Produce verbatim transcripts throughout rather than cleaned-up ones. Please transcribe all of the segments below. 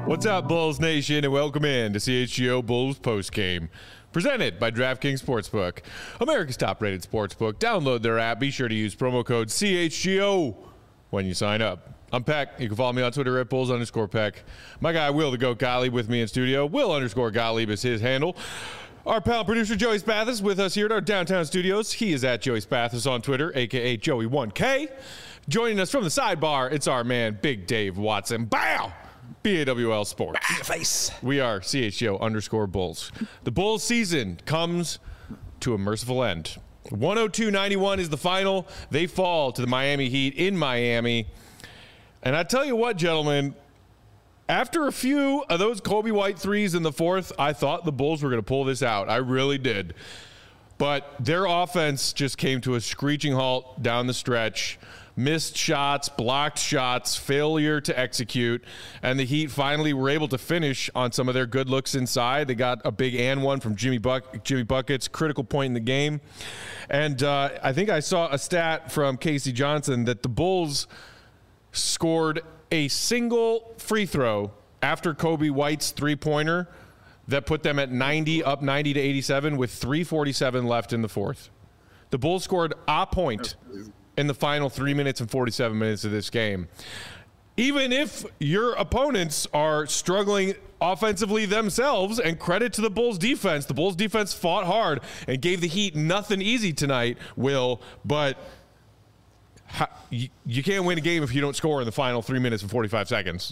What's up, Bulls Nation, and welcome in to C H G O Bulls Postgame, presented by DraftKings Sportsbook, America's top-rated sportsbook. Download their app. Be sure to use promo code C H G O when you sign up. I'm Peck. You can follow me on Twitter at Bulls underscore Peck. My guy, Will the Goat Gottlieb, with me in studio. Will underscore Gottlieb is his handle. Our pal producer, Joey Spathis, with us here at our downtown studios. He is at Joey Spathis on Twitter, a k a. Joey one K. Joining us from the sidebar, it's our man, Big Dave Watson. Bow! B A W L Sports. Face. We are C H G O underscore Bulls. The Bulls season comes to a merciful end. one oh two ninety-one is the final. They fall to the Miami Heat in Miami. And I tell you what, gentlemen, after a few of those Kobe White threes in the fourth, I thought the Bulls were going to pull this out. I really did. But their offense just came to a screeching halt down the stretch. Missed shots, blocked shots, failure to execute, and the Heat finally were able to finish on some of their good looks inside. They got a big and one from Jimmy Buck, Jimmy Buckets, critical point in the game. And uh, I think I saw a stat from Casey Johnson that the Bulls scored a single free throw after Kobe White's three-pointer that put them at ninety, up ninety to eighty-seven with three forty-seven left in the fourth. The Bulls scored a point in the final three minutes and forty-seven minutes of this game. Even if your opponents are struggling offensively themselves, and credit to the Bulls defense, the Bulls defense fought hard and gave the Heat nothing easy tonight, Will, but how, you, you can't win a game if you don't score in the final three minutes and forty-five seconds.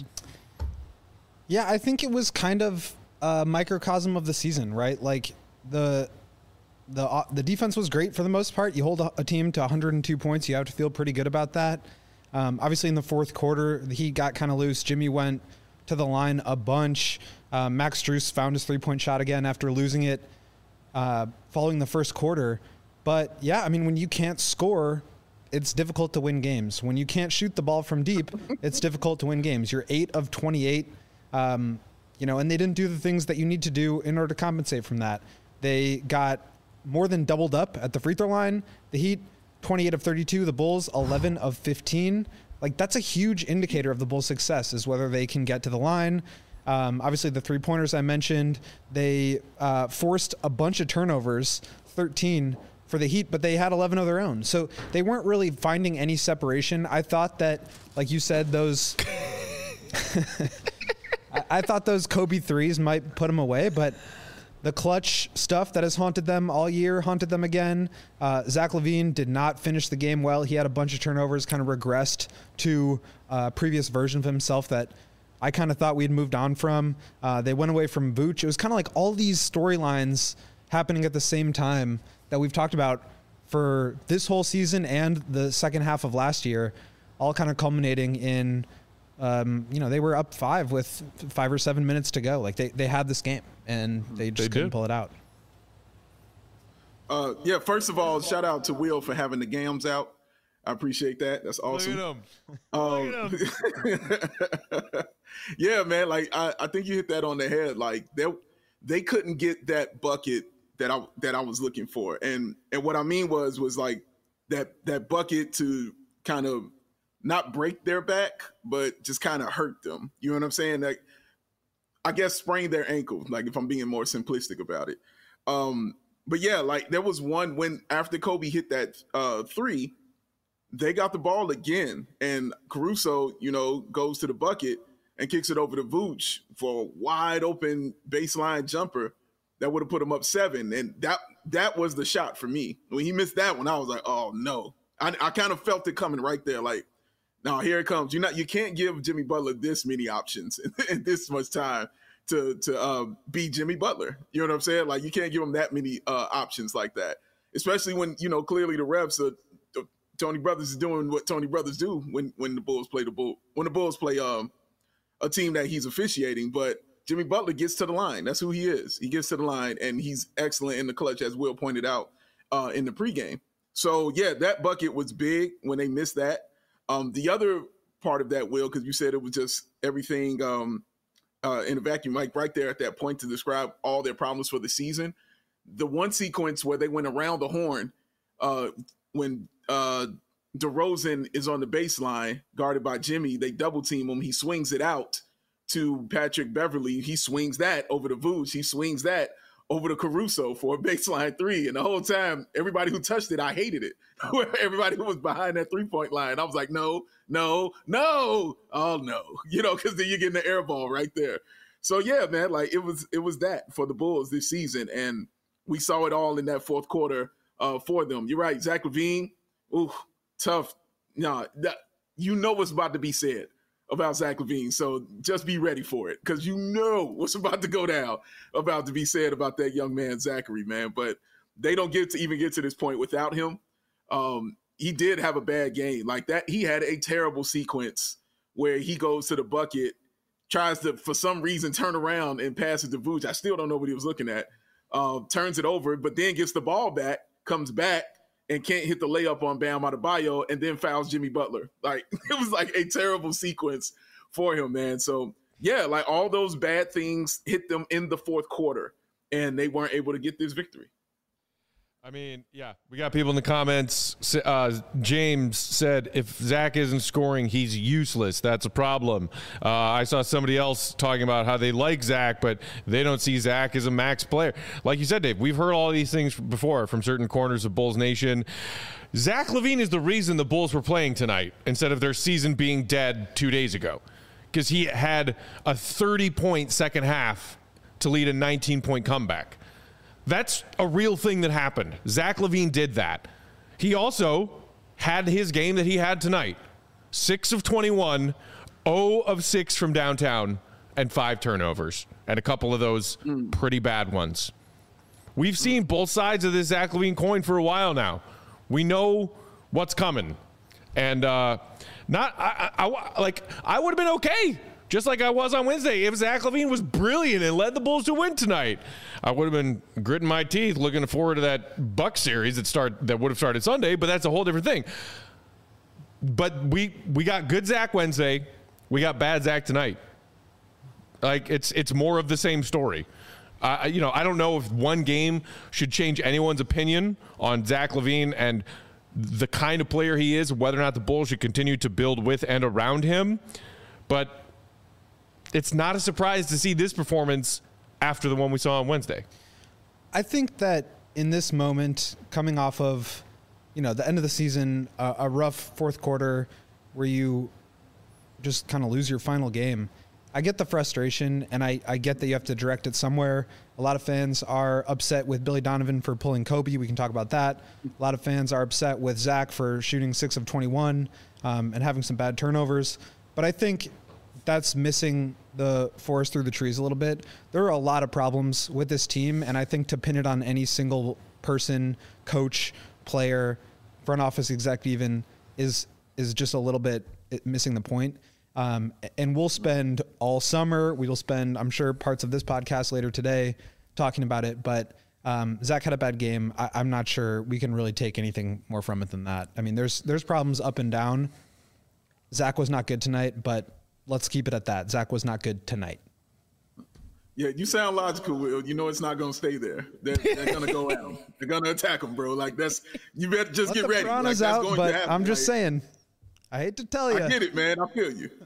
Yeah, I think it was kind of a microcosm of the season, right? Like the the uh, the defense was great for the most part. You hold a, a team to one hundred two points, you have to feel pretty good about that. Um, obviously, in the fourth quarter, the Heat got kind of loose. Jimmy went to the line a bunch. Uh, Max Strus found his three-point shot again after losing it uh, following the first quarter. But, yeah, I mean, when you can't score, it's difficult to win games. When you can't shoot the ball from deep, it's difficult to win games. You're eight of twenty-eight, um, you know, and they didn't do the things that you need to do in order to compensate from that. They got more than doubled up at the free throw line. The Heat, twenty-eight of thirty-two. The Bulls, eleven of fifteen. Like, that's a huge indicator of the Bulls' success, is whether they can get to the line. Um, obviously, the three-pointers I mentioned, they uh, forced a bunch of turnovers, thirteen for the Heat, but they had eleven of their own. So they weren't really finding any separation. I thought that, like you said, those I, I thought those Kobe threes might put them away, but the clutch stuff that has haunted them all year haunted them again. Uh, Zach LaVine did not finish the game well. He had a bunch of turnovers, kind of regressed to a previous version of himself that I kind of thought we had moved on from. Uh, they went away from Vooch. It was kind of like all these storylines happening at the same time that we've talked about for this whole season and the second half of last year, all kind of culminating in, um, you know, they were up five with five or seven minutes to go. Like they, they had this game and they just they couldn't did. pull it out. Uh, yeah, first of all, shout out to Will for having the gams out. I appreciate that. That's awesome. Look at him. Um, Look at him. Yeah, man. Like I, I think you hit that on the head. Like they they couldn't get that bucket that I that I was looking for. And and what I mean was was like that that bucket to kind of not break their back, but just kind of hurt them. You know what I'm saying? Like I guess sprain their ankle, like if I'm being more simplistic about it. Um, but yeah, like there was one when after Kobe hit that uh, three, they got the ball again. And Caruso, you know, goes to the bucket and kicks it over to Vooch for a wide open baseline jumper that would have put him up seven. And that that was the shot for me. When he missed that one, I was like, oh no. I, I kind of felt it coming right there. Like, no, here it comes. You're not, you can't give Jimmy Butler this many options and this much time to to uh, be Jimmy Butler. You know what I'm saying? Like, you can't give him that many uh, options like that, especially when, you know, clearly the refs are, the, Tony Brothers is doing what Tony Brothers do when when the Bulls play the Bull when the Bulls play um a team that he's officiating. But Jimmy Butler gets to the line. That's who he is. He gets to the line, and he's excellent in the clutch, as Will pointed out uh, in the pregame. So, yeah, that bucket was big when they missed that. Um, the other part of that, Will, because you said it was just everything um, uh, in a vacuum, like right there at that point to describe all their problems for the season. The one sequence where they went around the horn uh, when uh, DeRozan is on the baseline, guarded by Jimmy, they double team him. He swings it out to Patrick Beverly. He swings that over to Vooch. He swings that over to Caruso for a baseline three. And the whole time, everybody who touched it, I hated it. Everybody who was behind that three-point line, I was like, no, no, no. Oh, no. You know, because then you're getting the air ball right there. So, yeah, man, like it was it was that for the Bulls this season. And we saw it all in that fourth quarter uh, for them. You're right. Zach LaVine, ooh, tough. No, nah, you know what's about to be said about Zach LaVine. So just be ready for it because you know what's about to go down, about to be said about that young man, Zachary, man. But they don't get to even get to this point without him. Um, he did have a bad game. Like that, he had a terrible sequence where he goes to the bucket, tries to, for some reason, turn around and pass it to Vooch. I still don't know what he was looking at. Uh, turns it over, but then gets the ball back, comes back, and can't hit the layup on Bam Adebayo, and then fouls Jimmy Butler. Like, it was like a terrible sequence for him, man. So, yeah, like all those bad things hit them in the fourth quarter, and they weren't able to get this victory. I mean, yeah, we got people in the comments. Uh, James said, if Zach isn't scoring, he's useless. That's a problem. Uh, I saw somebody else talking about how they like Zach, but they don't see Zach as a max player. Like you said, Dave, we've heard all these things before from certain corners of Bulls Nation. Zach LaVine is the reason the Bulls were playing tonight instead of their season being dead two days ago, because he had a thirty-point second half to lead a nineteen-point comeback. That's a real thing that happened. Zach LaVine did that. He also had his game that he had tonight. six of twenty-one, zero of six from downtown, and five turnovers. And a couple of those mm. pretty bad ones. We've seen both sides of this Zach LaVine coin for a while now. We know what's coming. And uh, not I, I, I like I would have been okay, just like I was on Wednesday, if Zach LaVine was brilliant and led the Bulls to win tonight. I would have been gritting my teeth looking forward to that Bucks series that start that would have started Sunday, but that's a whole different thing. But we we got good Zach Wednesday. We got bad Zach tonight. Like, it's it's more of the same story. Uh, you know, I don't know if one game should change anyone's opinion on Zach LaVine and the kind of player he is, whether or not the Bulls should continue to build with and around him. But it's not a surprise to see this performance after the one we saw on Wednesday. I think that in this moment, coming off of, you know, the end of the season, uh, a rough fourth quarter where you just kind of lose your final game, I get the frustration, and I, I get that you have to direct it somewhere. A lot of fans are upset with Billy Donovan for pulling Kobe. We can talk about that. A lot of fans are upset with Zach for shooting six of twenty-one um, and having some bad turnovers. But I think that's missing the forest through the trees a little bit. There are a lot of problems with this team, and I think to pin it on any single person, coach, player, front office exec even, is is just a little bit missing the point. Um, and we'll spend all summer, we will spend, I'm sure, parts of this podcast later today talking about it, but um, Zach had a bad game. I, I'm not sure we can really take anything more from it than that. I mean, there's there's problems up and down. Zach was not good tonight, but let's keep it at that. Zach was not good tonight. Yeah, you sound logical, Will. You know it's not going to stay there. They're, they're going to go at him. They're going to attack him, bro. Like, that's, you better just Let get the ready. Like, that's out, going but to happen. I'm just like, saying. I hate to tell you. I get it, man. I feel you.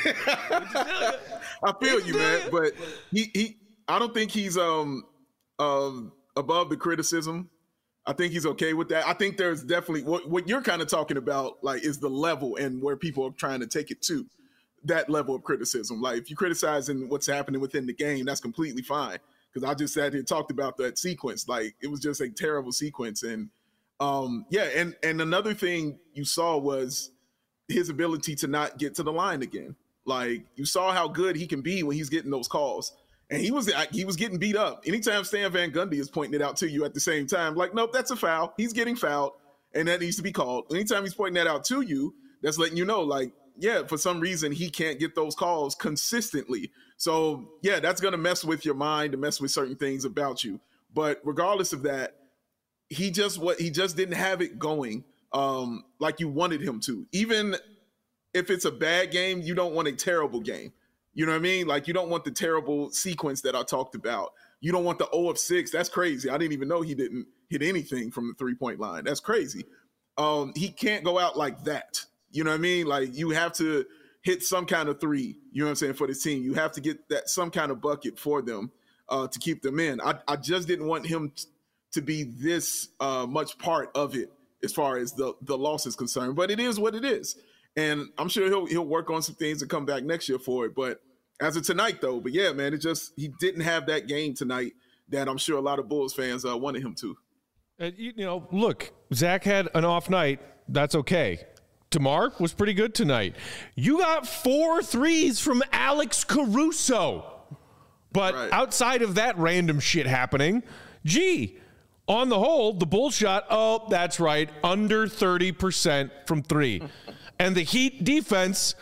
I feel you, man. But he, he, I don't think he's um, um above the criticism. I think he's okay with that. I think there's definitely what, what you're kind of talking about, like, is the level and where people are trying to take it to. That level of criticism. Like, if you're criticizing what's happening within the game, that's completely fine. Because I just sat here and talked about that sequence. Like, it was just a terrible sequence. And um, yeah, and and another thing you saw was his ability to not get to the line again. Like, you saw how good he can be when he's getting those calls. And he was he was getting beat up. Anytime Stan Van Gundy is pointing it out to you at the same time, like, nope, that's a foul. He's getting fouled, and that needs to be called. Anytime he's pointing that out to you, that's letting you know, like, yeah, for some reason he can't get those calls consistently. So, yeah, that's going to mess with your mind and mess with certain things about you. But regardless of that, he just what he just didn't have it going um, like you wanted him to. Even if it's a bad game, you don't want a terrible game. You know what I mean? Like, you don't want the terrible sequence that I talked about. You don't want the zero of six. That's crazy. I didn't even know he didn't hit anything from the three-point line. That's crazy. Um, he can't go out like that. You know what I mean? Like, you have to hit some kind of three, you know what I'm saying, for the team. You have to get that some kind of bucket for them uh, to keep them in. I, I just didn't want him t- to be this uh, much part of it as far as the, the loss is concerned. But it is what it is. And I'm sure he'll he'll work on some things and come back next year for it. But as of tonight, though, but yeah, man, it just he didn't have that game tonight that I'm sure a lot of Bulls fans uh, wanted him to. Uh, you, you know, look, Zach had an off night. That's okay. DeMar was pretty good tonight. You got four threes from Alex Caruso. But right. outside of that random shit happening, gee, on the whole, the Bulls shot, oh, that's right, under thirty percent from three. And the Heat defense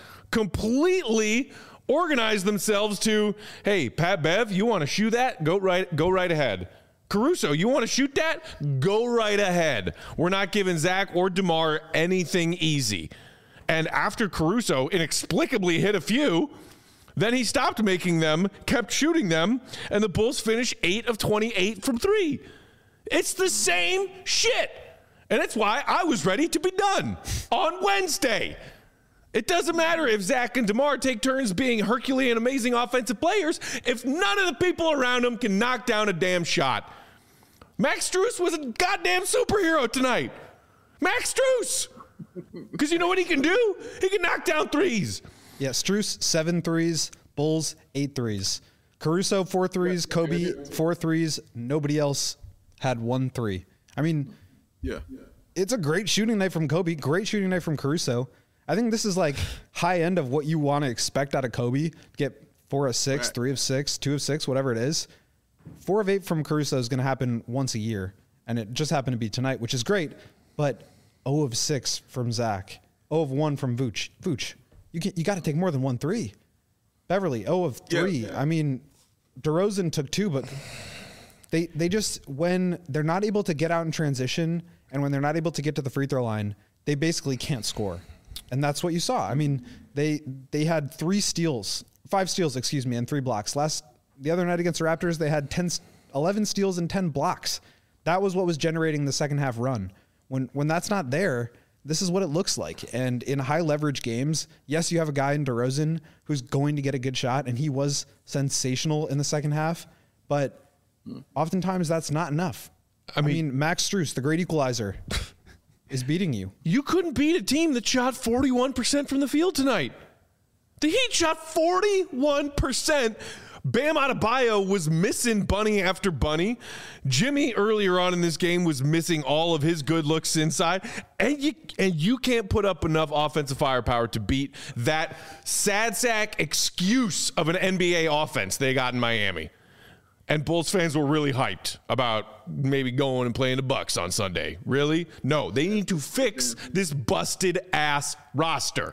completely organized themselves to, hey, Pat Bev, you want to shoot that? Go right, go right ahead. Caruso, you want to shoot that? Go right ahead. We're not giving Zach or DeMar anything easy. And after Caruso inexplicably hit a few, then he stopped making them, kept shooting them, and the Bulls finished eight of twenty-eight from three. It's the same shit. And that's why I was ready to be done on Wednesday. It doesn't matter if Zach and DeMar take turns being Herculean amazing offensive players if none of the people around them can knock down a damn shot. Max Strus was a goddamn superhero tonight. Max Strus. Because you know what he can do? He can knock down threes. Yeah, Strus, seven threes. Bulls, eight threes. Caruso, four threes. Kobe, four threes. Nobody else had one three. I mean, yeah, it's a great shooting night from Kobe. Great shooting night from Caruso. I think this is like high end of what you want to expect out of Kobe. Get four of six, right. three of six, two of six, whatever it is. Four of eight from Caruso is going to happen once a year, and it just happened to be tonight, which is great. But zero of six from Zach, zero of one from Vooch. Vooch, you can, you got to take more than one three. Beverly, zero of three. Yeah, yeah. I mean, DeRozan took two, but they they just when they're not able to get out in transition, and when they're not able to get to the free throw line, they basically can't score. And that's what you saw. I mean, they they had three steals, five steals, excuse me, and three blocks. Last the other night against the Raptors, they had ten, eleven steals and ten blocks. That was what was generating the second half run. When when that's not there, this is what it looks like. And in high leverage games, yes, you have a guy in DeRozan who's going to get a good shot, and he was sensational in the second half. But oftentimes that's not enough. I mean, I mean Max Strus, the great equalizer, is beating you. You couldn't beat a team that shot forty-one percent from the field tonight. The Heat shot forty-one percent. Bam Adebayo was missing bunny after bunny. Jimmy earlier on in this game was missing all of his good looks inside. And you and you can't put up enough offensive firepower to beat that sad sack excuse of an N B A offense they got in Miami. And Bulls fans were really hyped about maybe going and playing the Bucks on Sunday. Really? No, they need to fix this busted ass roster.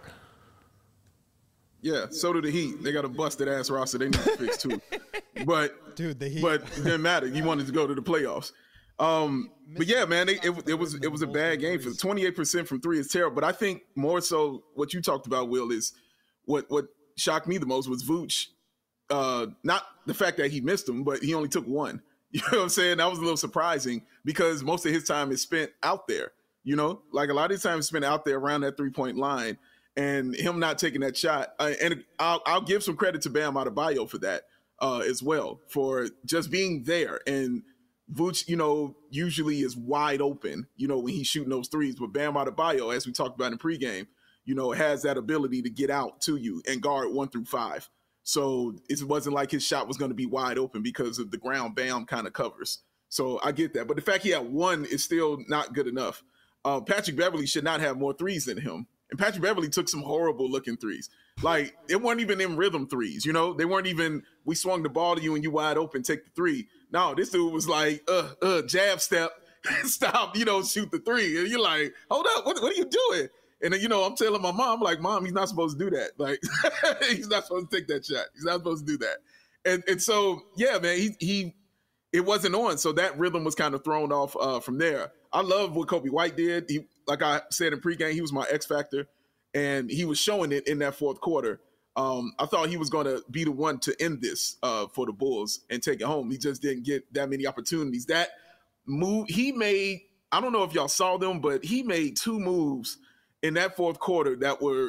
Yeah, so do the Heat. They got a busted ass roster they need to fix too. But dude, the Heat. But it didn't matter. You wanted to go to the playoffs. Um, but yeah, man, they, it, it was it was a bad game. For twenty-eight percent from three is terrible. But I think more so what you talked about, Will, is what what shocked me the most was Vooch. Uh, not the fact that he missed them, but he only took one. You know what I'm saying? That was a little surprising because most of his time is spent out there. You know, like a lot of his time is spent out there around that three point line. And him not taking that shot, uh, and I'll, I'll give some credit to Bam Adebayo for that uh, as well, for just being there. And Vooch, you know, usually is wide open, you know, when he's shooting those threes. But Bam Adebayo, as we talked about in pregame, you know, has that ability to get out to you and guard one through five. So it wasn't like his shot was going to be wide open because of the ground Bam kind of covers. So I get that. But the fact he had one is still not good enough. Uh, Patrick Beverly should not have more threes than him. And Patrick Beverly took some horrible looking threes. Like, it weren't even in rhythm threes, you know? They weren't even, we swung the ball to you and you wide open, take the three. No, this dude was like, uh, uh, jab step, stop, you know, shoot the three. And you're like, hold up, what, what are you doing? And then, you know, I'm telling my mom, like, Mom, he's not supposed to do that. Like, he's not supposed to take that shot. He's not supposed to do that. And and so, yeah, man, he, he it wasn't on. So that rhythm was kind of thrown off uh, from there. I love what Kobe White did. He, like I said in pregame, he was my X factor, and he was showing it in that fourth quarter. Um, I thought he was going to be the one to end this uh, for the Bulls and take it home. He just didn't get that many opportunities. That move he made, I don't know if y'all saw them, but he made two moves in that fourth quarter that were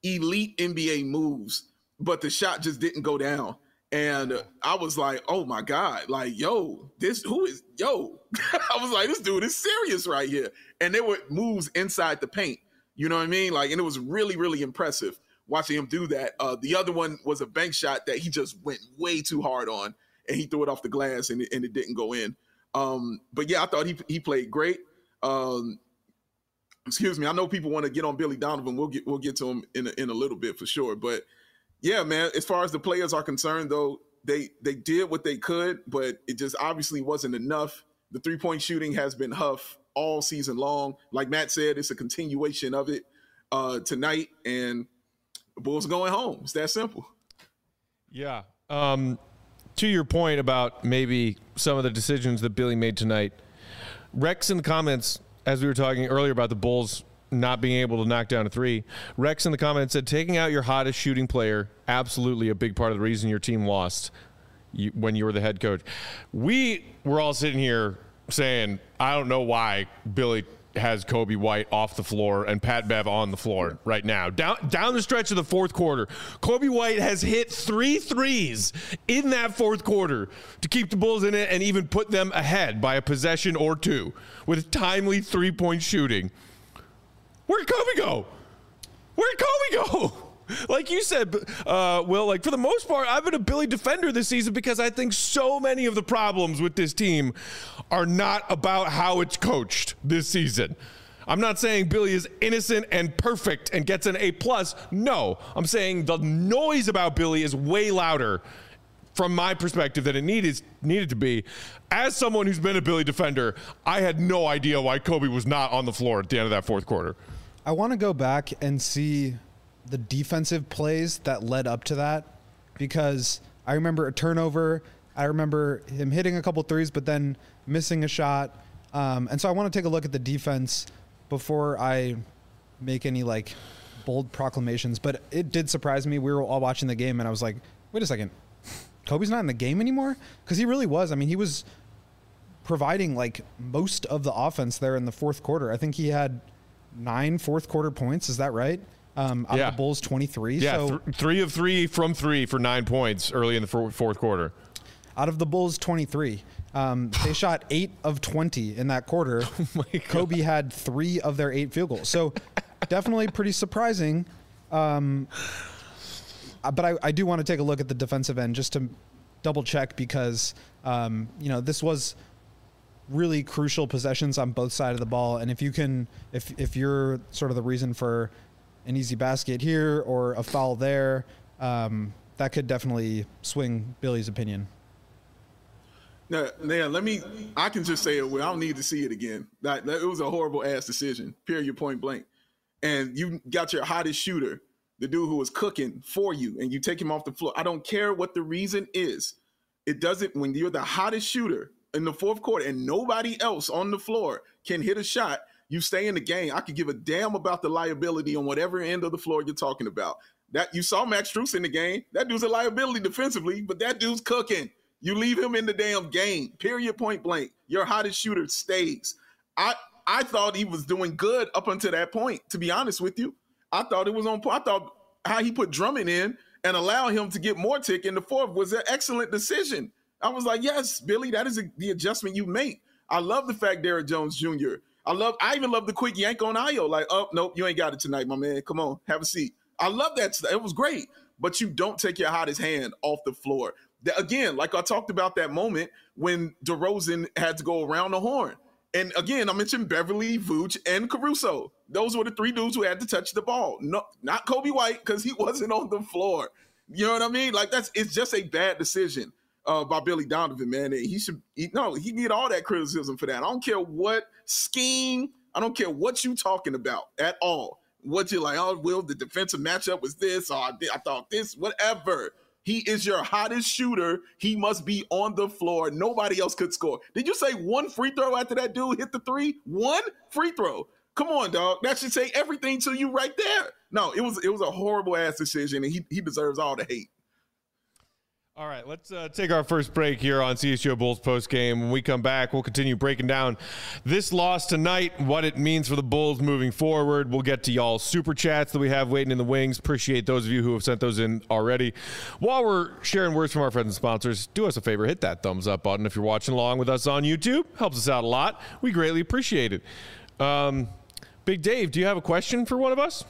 elite N B A moves, but the shot just didn't go down. And I was like, oh my God, like, yo, this, who is, yo, I was like, this dude is serious right here. And there were moves inside the paint, you know what I mean? Like, and it was really, really impressive watching him do that. Uh, the other one was a bank shot that he just went way too hard on, and he threw it off the glass and it, and it didn't go in. Um, but yeah, I thought he he played great. Um, excuse me. I know people want to get on Billy Donovan. We'll get we'll get to him in a, in a little bit for sure. But yeah, man, as far as the players are concerned, though, they they did what they could, but it just obviously wasn't enough. The three-point shooting has been Huff all season long. Like Matt said, it's a continuation of it uh, tonight, and the Bulls are going home. It's that simple. Yeah. Um, to your point about maybe some of the decisions that Billy made tonight, Rex in the comments, as we were talking earlier about the Bulls not being able to knock down a three, Rex in the comments said taking out your hottest shooting player, absolutely a big part of the reason your team lost you, when you were the head coach. We were all sitting here saying, I don't know why Billy has Coby White off the floor and Pat Bev on the floor right now. Down down the stretch of the fourth quarter, Coby White has hit three threes in that fourth quarter to keep the Bulls in it and even put them ahead by a possession or two with timely three-point shooting. Where'd Coby go? Where'd Coby go? Like you said, uh, Will, like for the most part, I've been a Billy defender this season because I think so many of the problems with this team are not about how it's coached this season. I'm not saying Billy is innocent and perfect and gets an A plus. No, I'm saying the noise about Billy is way louder from my perspective than it needed needed to be. As someone who's been a Billy defender, I had no idea why Coby was not on the floor at the end of that fourth quarter. I want to go back and see the defensive plays that led up to that, because I remember a turnover. I remember him hitting a couple threes, but then missing a shot. Um, and so I want to take a look at the defense before I make any like bold proclamations, but it did surprise me. We were all watching the game and I was like, wait a second, Coby's not in the game anymore? Because he really was. I mean, he was providing like most of the offense there in the fourth quarter. I think he had nine fourth quarter points. Is that right? Um, out yeah. of the Bulls twenty-three. Yeah, so th- three of three from three for nine points early in the f- fourth quarter. Out of the Bulls twenty-three, um, they shot eight of twenty in that quarter. Oh Coby had three of their eight field goals. So definitely pretty surprising. Um, but I, I do want to take a look at the defensive end just to double check because, um, you know, this was really crucial possessions on both sides of the ball. And if you can, if, if you're sort of the reason for an easy basket here or a foul there, um, that could definitely swing Billy's opinion. Now, now, let me, I can just say it. Well, I don't need to see it again. That, that it was a horrible ass decision, period, point blank. And you got your hottest shooter, the dude who was cooking for you, and you take him off the floor. I don't care what the reason is. It doesn't, when you're the hottest shooter in the fourth quarter and nobody else on the floor can hit a shot, you stay in the game. I could give a damn about the liability on whatever end of the floor you're talking about. That you saw Max Strus in the game. That dude's a liability defensively, but that dude's cooking. You leave him in the damn game, period, point blank. Your hottest shooter stays. I I thought he was doing good up until that point, to be honest with you. I thought it was on point. I thought how he put Drummond in and allow him to get more tick in the fourth was an excellent decision. I was like, yes, Billy, that is a, the adjustment you make. I love the fact Derrick Jones Junior I love. I even love the quick yank on Ayo. Like, oh, nope, you ain't got it tonight, my man. Come on, have a seat. I love that. It was great. But you don't take your hottest hand off the floor. The, again, like I talked about that moment when DeRozan had to go around the horn. And again, I mentioned Beverly, Vooch, and Caruso. Those were the three dudes who had to touch the ball. No, not Coby White, because he wasn't on the floor. You know what I mean? Like, that's it's just a bad decision uh, by Billy Donovan, man. And he should he, no, he can get all that criticism for that. I don't care what scheme, I don't care what you talking about at all. What you're like, oh, Will, the defensive matchup was this, or I, did, I thought this, whatever. He is your hottest shooter. He must be on the floor. Nobody else could score. Did you say one free throw after that dude hit the three? One free throw. Come on, dog. That should say everything to you right there. No, it was it was a horrible ass decision, and he he deserves all the hate. All right, let's uh, take our first break here on C H G O Bulls postgame. When we come back, we'll continue breaking down this loss tonight, what it means for the Bulls moving forward. We'll get to y'all's super chats that we have waiting in the wings. Appreciate those of you who have sent those in already. While we're sharing words from our friends and sponsors, do us a favor, hit that thumbs up button if you're watching along with us on YouTube. Helps us out a lot. We greatly appreciate it. Um, Big Dave, do you have a question for one of us?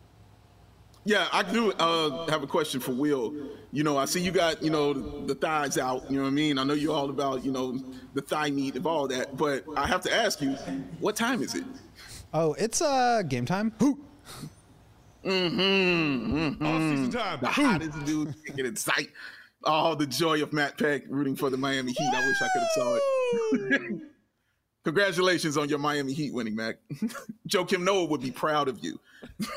Yeah, I do uh, have a question for Will. You know, I see you got, you know, the, the thighs out, you know what I mean? I know you're all about, you know, the thigh meat and all that, but I have to ask you, what time is it? Oh, it's uh, game time. Who? Mm-hmm. mm-hmm. Off-season time. The hottest dude get in sight. Oh, the joy of Matt Peck rooting for the Miami Heat. I wish I could have saw it. Congratulations on your Miami Heat winning, Mac. Joakim Noah would be proud of you.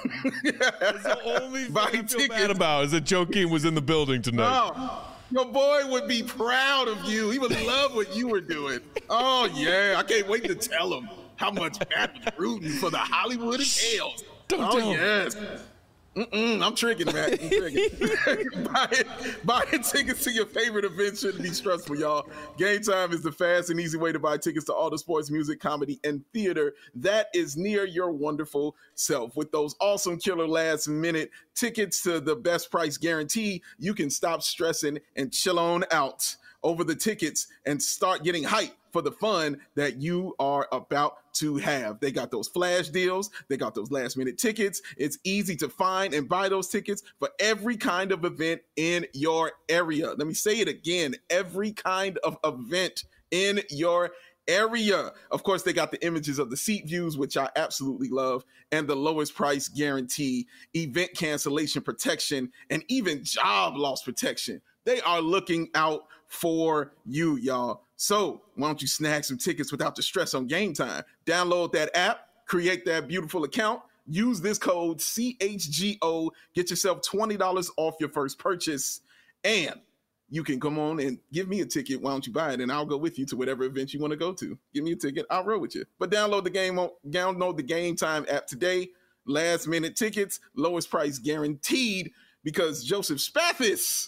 That's the only thing I feel bad about is that Joakim was in the building tonight. Oh, your boy would be proud of you. He would love what you were doing. Oh, yeah. I can't wait to tell him how much Matt was rooting for the Hollywood Hales. Don't oh, tell yes. Mm-mm, I'm tricking, Matt. I'm tricking. Buying, buying tickets to your favorite events shouldn't be stressful, y'all. Game Time is the fast and easy way to buy tickets to all the sports, music, comedy, and theater that is near your wonderful self. With those awesome killer last minute tickets to the best price guarantee, you can stop stressing and chill on out over the tickets and start getting hyped for the fun that you are about to have. They got those flash deals. They got those last minute tickets. It's easy to find and buy those tickets for every kind of event in your area. Let me say it again. Every kind of event in your area. Of course, they got the images of the seat views, which I absolutely love, and the lowest price guarantee, event cancellation protection, and even job loss protection. They are looking out for you, y'all. So why don't you snag some tickets without the stress on Game Time? Download that app, create that beautiful account, use this code C H G O, get yourself twenty dollars off your first purchase, and you can come on and give me a ticket. Why don't you buy it? And I'll go with you to whatever event you want to go to. Give me a ticket. I'll roll with you. But download the game, download the Game Time app today. Last minute tickets, lowest price guaranteed, because Joseph Spathis.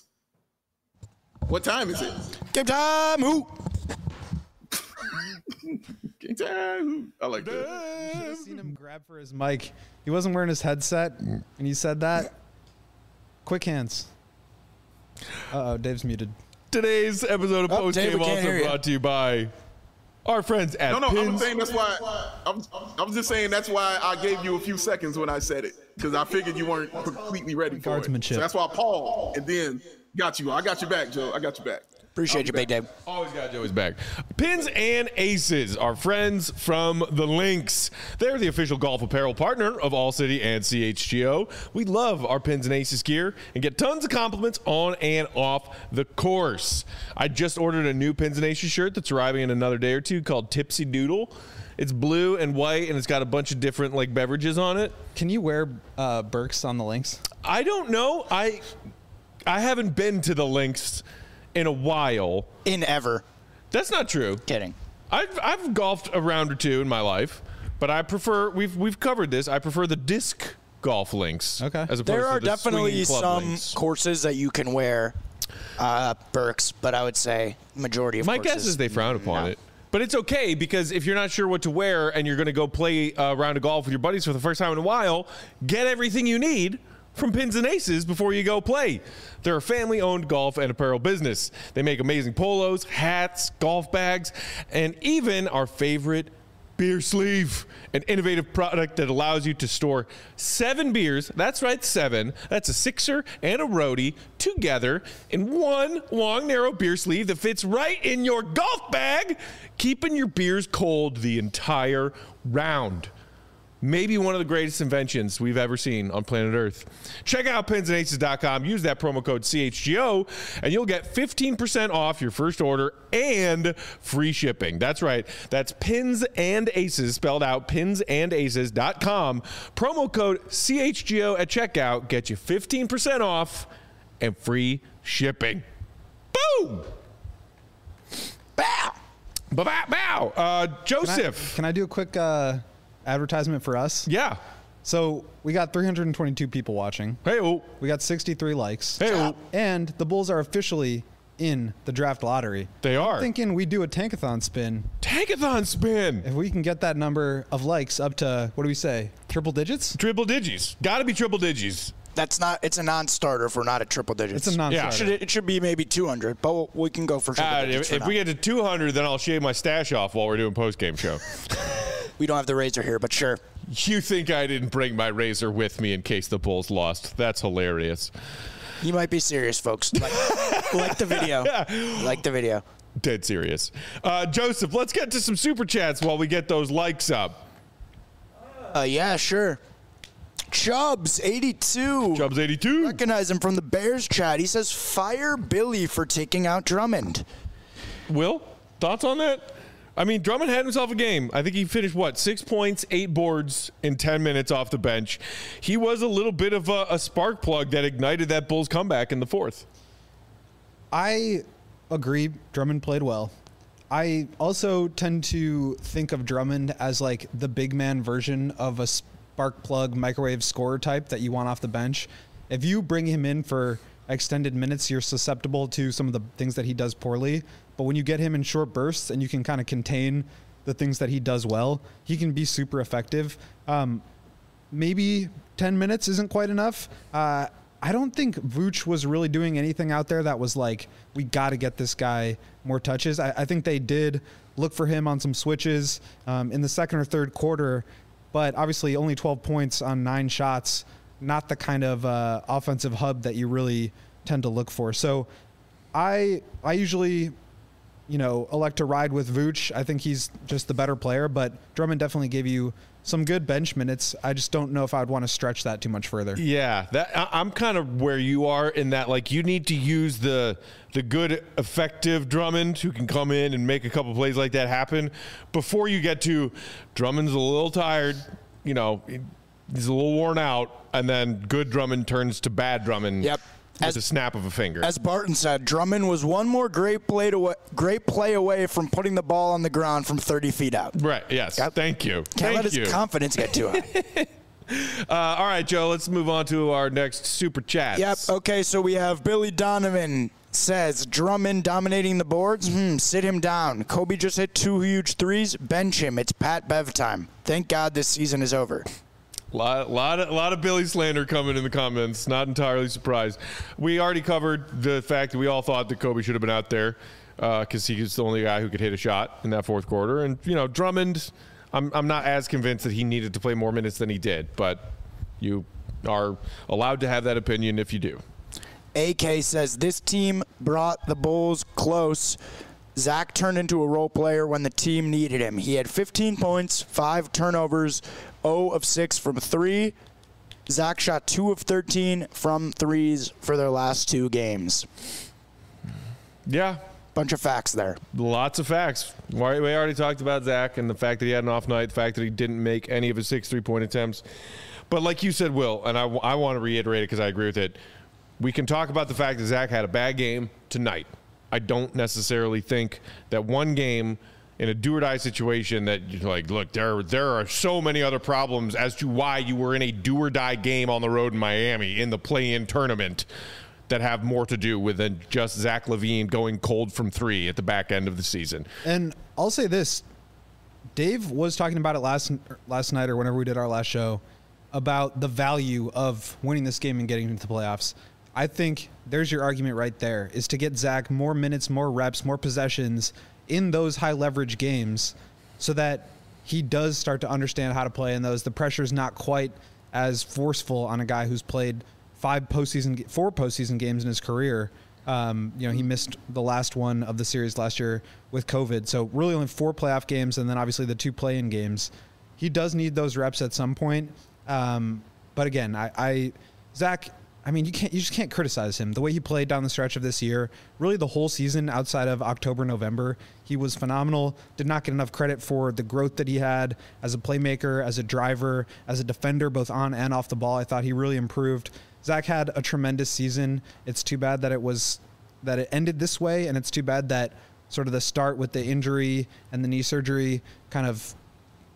What time is it? Game time. Who? Game time. I like that. You should have seen him grab for his mic. He wasn't wearing his headset, and he said that. Quick hands. Uh-oh, Dave's muted. Today's episode of Oh, Post Dave, Game we can't also hear you. brought to you by our friends at No, no, I Pins. was saying that's why. I was, I was just saying that's why I gave you a few seconds when I said it, because I figured you weren't completely ready for it. Guardsmanship. So that's why I paused and then got you. I got you back, Joe. I got you back. Appreciate you, Big Dave. Always got Joey's back. Pins and Aces, our friends from the Links. They're the official golf apparel partner of All City and C H G O. We love our Pins and Aces gear and get tons of compliments on and off the course. I just ordered a new Pins and Aces shirt that's arriving in another day or two called Tipsy Doodle. It's blue and white, and it's got a bunch of different like beverages on it. Can you wear uh, Burks on the links? I don't know. I I haven't been to the Links in a while. In ever. That's not true. Kidding. I've I've golfed a round or two in my life, but I prefer we've we've covered this. I prefer the disc golf links. Okay. As opposed There are to the definitely swinging club some links. courses that you can wear uh, Burks, but I would say majority of My courses. guess is they frown upon no. it. But it's okay, because if you're not sure what to wear and you're going to go play a round of golf with your buddies for the first time in a while, get everything you need from Pins and Aces before you go play. They're a family-owned golf and apparel business. They make amazing polos, hats, golf bags, and even our favorite beer sleeve, an innovative product that allows you to store seven beers. That's right, seven. That's a sixer and a roadie together in one long, narrow beer sleeve that fits right in your golf bag, keeping your beers cold the entire round. Maybe one of the greatest inventions we've ever seen on planet Earth. Check out pins and aces dot com. Use that promo code C H G O, and you'll get fifteen percent off your first order and free shipping. That's right. That's Pins and Aces, spelled out pins and aces dot com. Promo code C H G O at checkout. Get you fifteen percent off and free shipping. Boom! Bow! Bow! Bow! Uh, Can I, Joseph. can I do a quick uh, advertisement for us? Yeah. So we got three hundred twenty-two people watching. Hey, oh. We got sixty-three likes. Hey, oh. And the Bulls are officially in the draft lottery. They are. I'm thinking we do a tankathon spin. Tankathon spin. If we can get that number of likes up to, what do we say, triple digits? Triple digits. Got to be triple digits. That's not. It's a non-starter if we're not at triple digits. It's a non-starter. Yeah. It should, it should be maybe two hundred, but we can go for triple Uh, digits if for if now. we get to two hundred, then I'll shave my stash off while we're doing post-game show. We don't have the razor here, but sure. You think I didn't bring my razor with me in case the Bulls lost? That's hilarious. You might be serious, folks. Like, like the video. Like the video. Dead serious. Uh, Joseph, let's get to some super chats while we get those likes up. Uh, yeah, sure. Chubbs, eighty-two. Chubbs eighty-two. Recognize him from the Bears chat. He says, fire Billy for taking out Drummond. Will, thoughts on that? I mean, Drummond had himself a game. I think he finished, what, six points, eight boards in ten minutes off the bench. He was a little bit of a, a spark plug that ignited that Bulls comeback in the fourth. I agree. Drummond played well. I also tend to think of Drummond as like the big man version of a spark plug microwave scorer type that you want off the bench. If you bring him in for extended minutes, you're susceptible to some of the things that he does poorly. But when you get him in short bursts and you can kind of contain the things that he does well, he can be super effective. Um, maybe ten minutes isn't quite enough. Uh, I don't think Vooch was really doing anything out there that was like, we got to get this guy more touches. I, I think they did look for him on some switches um, in the second or third quarter, but obviously only twelve points on nine shots, not the kind of uh, offensive hub that you really tend to look for. So I I usually, you know, elect to ride with Vooch. I think he's just the better player, but Drummond definitely gave you some good bench minutes. I just don't know if I would want to stretch that too much further. Yeah, that I, I'm kind of where you are in that, like, you need to use the the good, effective Drummond who can come in and make a couple plays like that happen before you get to Drummond's a little tired, you know, he's a little worn out, and then good Drummond turns to bad Drummond. Yep. With As, a snap of a finger. As Barton said, Drummond was one more great play to, great play away from putting the ball on the ground from thirty feet out. Right, yes. Yep. Thank you. Can't Thank let his you. confidence get too high. uh, all right, Joe, let's move on to our next super chat. Yep. Okay, so we have Billy Donovan says, Drummond dominating the boards? Hmm, sit him down. Kobe just hit two huge threes. Bench him. It's Pat Bev time. Thank God this season is over. Lot, lot, of, lot of Billy slander coming in the comments. Not entirely surprised. We already covered the fact that we all thought that Kobe should have been out there because uh, he was the only guy who could hit a shot in that fourth quarter. And, you know, Drummond, I'm, I'm not as convinced that he needed to play more minutes than he did, but you are allowed to have that opinion if you do. A K says, this team brought the Bulls close. Zach turned into a role player when the team needed him. He had fifteen points, five turnovers, zero of six from three. Zach shot two of thirteen from threes for their last two games. Yeah. Bunch of facts there. Lots of facts. We already talked about Zach and the fact that he had an off night, the fact that he didn't make any of his six three-point attempts. But like you said, Will, and I, I want to reiterate it because I agree with it, we can talk about the fact that Zach had a bad game tonight. I don't necessarily think that one game in a do-or-die situation that you're like, look, there, there are so many other problems as to why you were in a do-or-die game on the road in Miami in the play-in tournament that have more to do with than just Zach LaVine going cold from three at the back end of the season. And I'll say this, Dave was talking about it last last night or whenever we did our last show about the value of winning this game and getting into the playoffs. I think there's your argument right there, is to get Zach more minutes, more reps, more possessions in those high leverage games so that he does start to understand how to play in those. The pressure is not quite as forceful on a guy who's played five postseason, four postseason games in his career. Um, you know, he missed the last one of the series last year with COVID. So really only four playoff games and then obviously the two play-in games. He does need those reps at some point. Um, but again, I, I Zach, I mean, you can't, you just can't criticize him. The way he played down the stretch of this year, really the whole season outside of October, November, he was phenomenal. Did not get enough credit for the growth that he had as a playmaker, as a driver, as a defender, both on and off the ball. I thought he really improved. Zach had a tremendous season. It's too bad that it was, that it ended this way. And it's too bad that sort of the start with the injury and the knee surgery kind of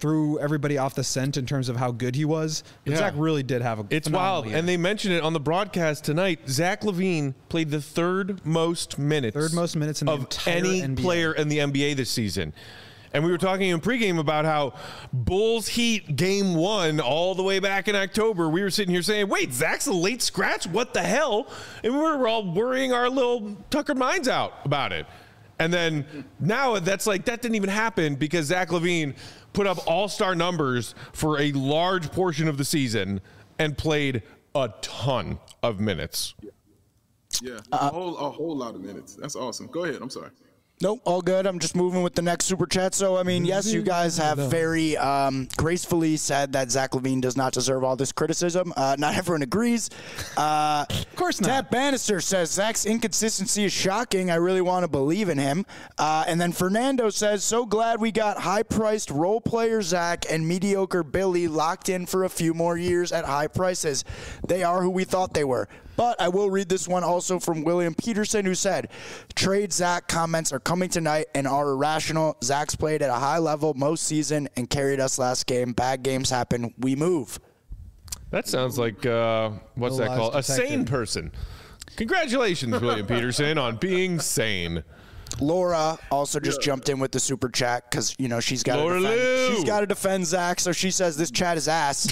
threw everybody off the scent in terms of how good he was. But Yeah. Zach really did have a It's phenomenal wild. year. And they mentioned it on the broadcast tonight. Zach LaVine played the third most minutes. Third most minutes in the of entire any N B A. player in the N B A this season. And we were talking in pregame about how Bulls Heat game one all the way back in October, we were sitting here saying, wait, Zach's a late scratch? What the hell? And we were all worrying our little Tucker minds out about it. And then now that's like, that didn't even happen because Zach LaVine put up all-star numbers for a large portion of the season and played a ton of minutes. Yeah, a whole a whole lot of minutes. That's awesome. Go ahead. I'm sorry. Nope, all good. I'm just moving with the next super chat. So, I mean, yes, you guys have very um, gracefully said that Zach LaVine does not deserve all this criticism. Uh, not everyone agrees. Uh, of course not. Tab Bannister says Zach's inconsistency is shocking. I really want to believe in him. Uh, and then Fernando says, so glad we got high-priced role player Zach and mediocre Billy locked in for a few more years at high prices. They are who we thought they were. But I will read this one also from William Peterson, who said, trade Zach comments are coming tonight and are irrational. Zach's played at a high level most season and carried us last game. Bad games happen. We move. That sounds like, uh, what's No that lies called? A detected. sane person. Congratulations, William Peterson, on being sane. Laura also just jumped in with the super chat because, you know, she's got to Laura Lou. defend, she's got to defend Zach. So she says this chat is ass.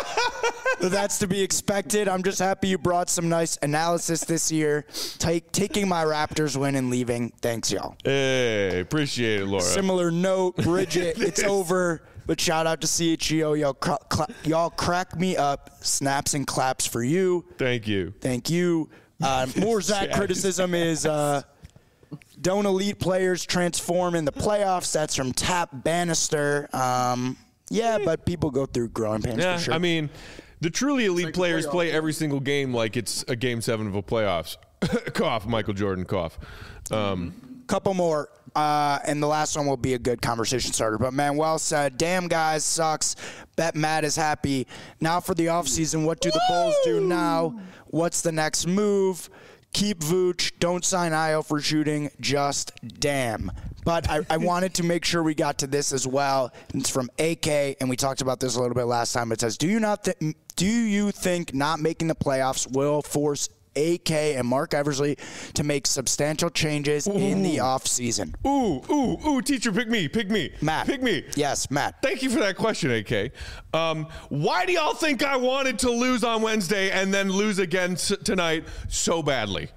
But that's to be expected. I'm just happy you brought some nice analysis this year. Take, taking my Raptors win and leaving. Thanks, y'all. Hey, appreciate it, Laura. Similar note, Bridget, it's over. But shout out to C H E O. Y'all, cra- cla- y'all crack me up. Snaps and claps for you. Thank you. Thank you. Uh, more Zach Yes. criticism is uh, don't elite players transform in the playoffs. That's from Tap Bannister. Um, yeah, but people go through growing pains Yeah, for sure. I mean, the truly elite like the players playoffs. play every single game like it's a game seven of a playoffs. Cough, Michael Jordan, cough. Um, Couple more, uh, and the last one will be a good conversation starter. But Manuel said, damn, guys, sucks. Bet Matt is happy. Now for the offseason, what do the Bulls do now? What's the next move? Keep Vooch. Don't sign Io for shooting. Just damn. But I, I wanted to make sure we got to this as well. It's from A K, and we talked about this a little bit last time. It says, do you not th- do you think not making the playoffs will force A K and Mark Eversley to make substantial changes in the offseason? ooh, ooh, ooh, teacher, pick me, pick me. Matt. Pick me. Yes, Matt. Thank you for that question, A K. Um, why do y'all think I wanted to lose on Wednesday and then lose again s- tonight so badly?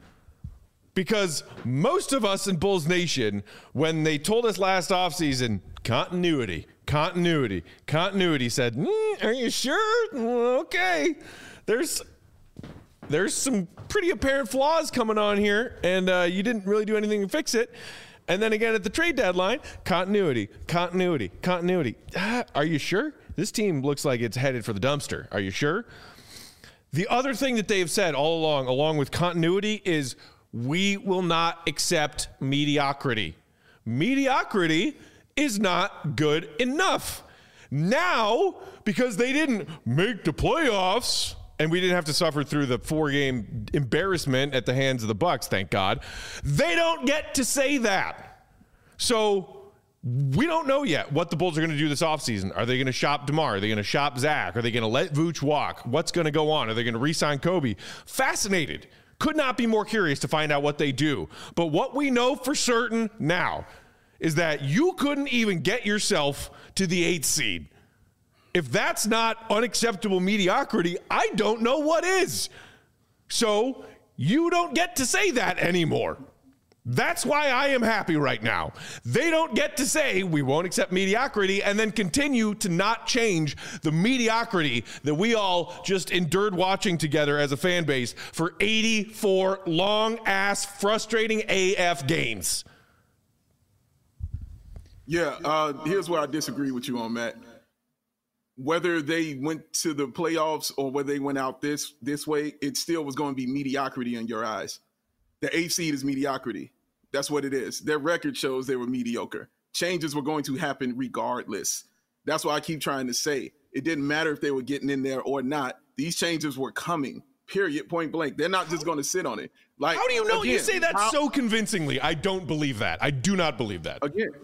Because most of us in Bulls Nation, when they told us last offseason, continuity, continuity, continuity, said, mm, are you sure? Well, okay. There's there's some pretty apparent flaws coming on here, and uh, you didn't really do anything to fix it. And then again at the trade deadline, continuity, continuity, continuity. Ah, are you sure? This team looks like it's headed for the dumpster. Are you sure? The other thing that they've said all along, along with continuity, is we will not accept mediocrity. Mediocrity is not good enough. Now, because they didn't make the playoffs, and we didn't have to suffer through the four-game embarrassment at the hands of the Bucks, thank God, they don't get to say that. So we don't know yet what the Bulls are going to do this offseason. Are they going to shop DeMar? Are they going to shop Zach? Are they going to let Vooch walk? What's going to go on? Are they going to re-sign Kobe? Fascinated. Could not be more curious to find out what they do. But what we know for certain now is that you couldn't even get yourself to the eighth seed. If that's not unacceptable mediocrity, I don't know what is. So you don't get to say that anymore. That's why I am happy right now. They don't get to say we won't accept mediocrity and then continue to not change the mediocrity that we all just endured watching together as a fan base for eighty-four long-ass, frustrating A F games. Yeah, uh, here's where I disagree with you on, Matt. Whether they went to the playoffs or whether they went out this this way, it still was going to be mediocrity in your eyes. The eighth seed is mediocrity. That's what it is. Their record shows they were mediocre. Changes were going to happen regardless. That's why I keep trying to say it didn't matter if they were getting in there or not. These changes were coming, period, point blank. They're not just going to sit on it. Like, How do you know? again, you say that how- so convincingly. I don't believe that. I do not believe that. Again,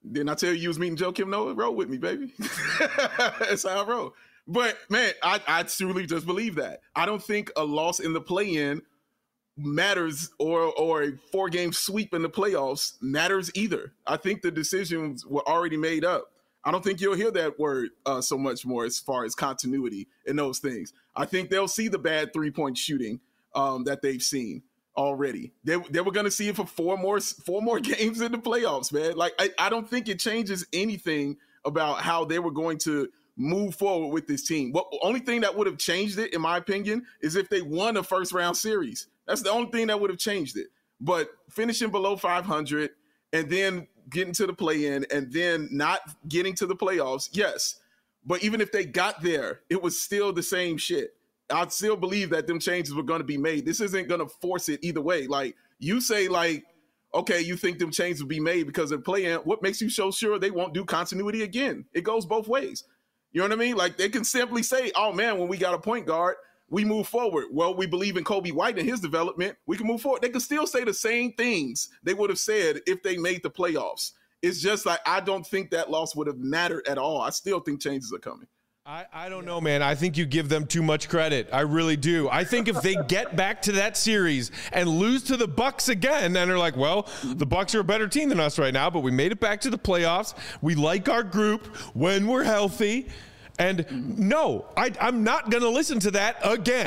Didn't I tell you you was meeting Joe Kim Noah? Roll with me, baby. That's how I roll. But, man, I, I truly just believe that. I don't think a loss in the play-in matters or or a four-game sweep in the playoffs matters either. I think the decisions were already made up. I don't think you'll hear that word uh, so much more as far as continuity and those things. I think they'll see the bad three-point shooting um, that they've seen already. They, they were going to see it for four more four more games in the playoffs, man. Like, I, I don't think it changes anything about how they were going to move forward with this team. What only thing that would have changed it, in my opinion, is if they won a first-round series. That's the only thing that would have changed it. But finishing below five hundred and then getting to the play-in and then not getting to the playoffs, yes. But even if they got there, it was still the same shit. I still believe that them changes were going to be made. This isn't going to force it either way. Like, you say, like, okay, you think them changes will be made because they're playing. What makes you so sure they won't do continuity again? It goes both ways. You know what I mean? Like, they can simply say, oh, man, when we got a point guard, we move forward. Well, we believe in Kobe White and his development. We can move forward. They can still say the same things they would have said if they made the playoffs. It's just like, I don't think that loss would have mattered at all. I still think changes are coming. I, I don't know, man. I think you give them too much credit. I really do. I think if they get back to that series and lose to the Bucks again, and they're like, well, the Bucks are a better team than us right now, but we made it back to the playoffs. We like our group when we're healthy. And no, I, I'm not going to listen to that again.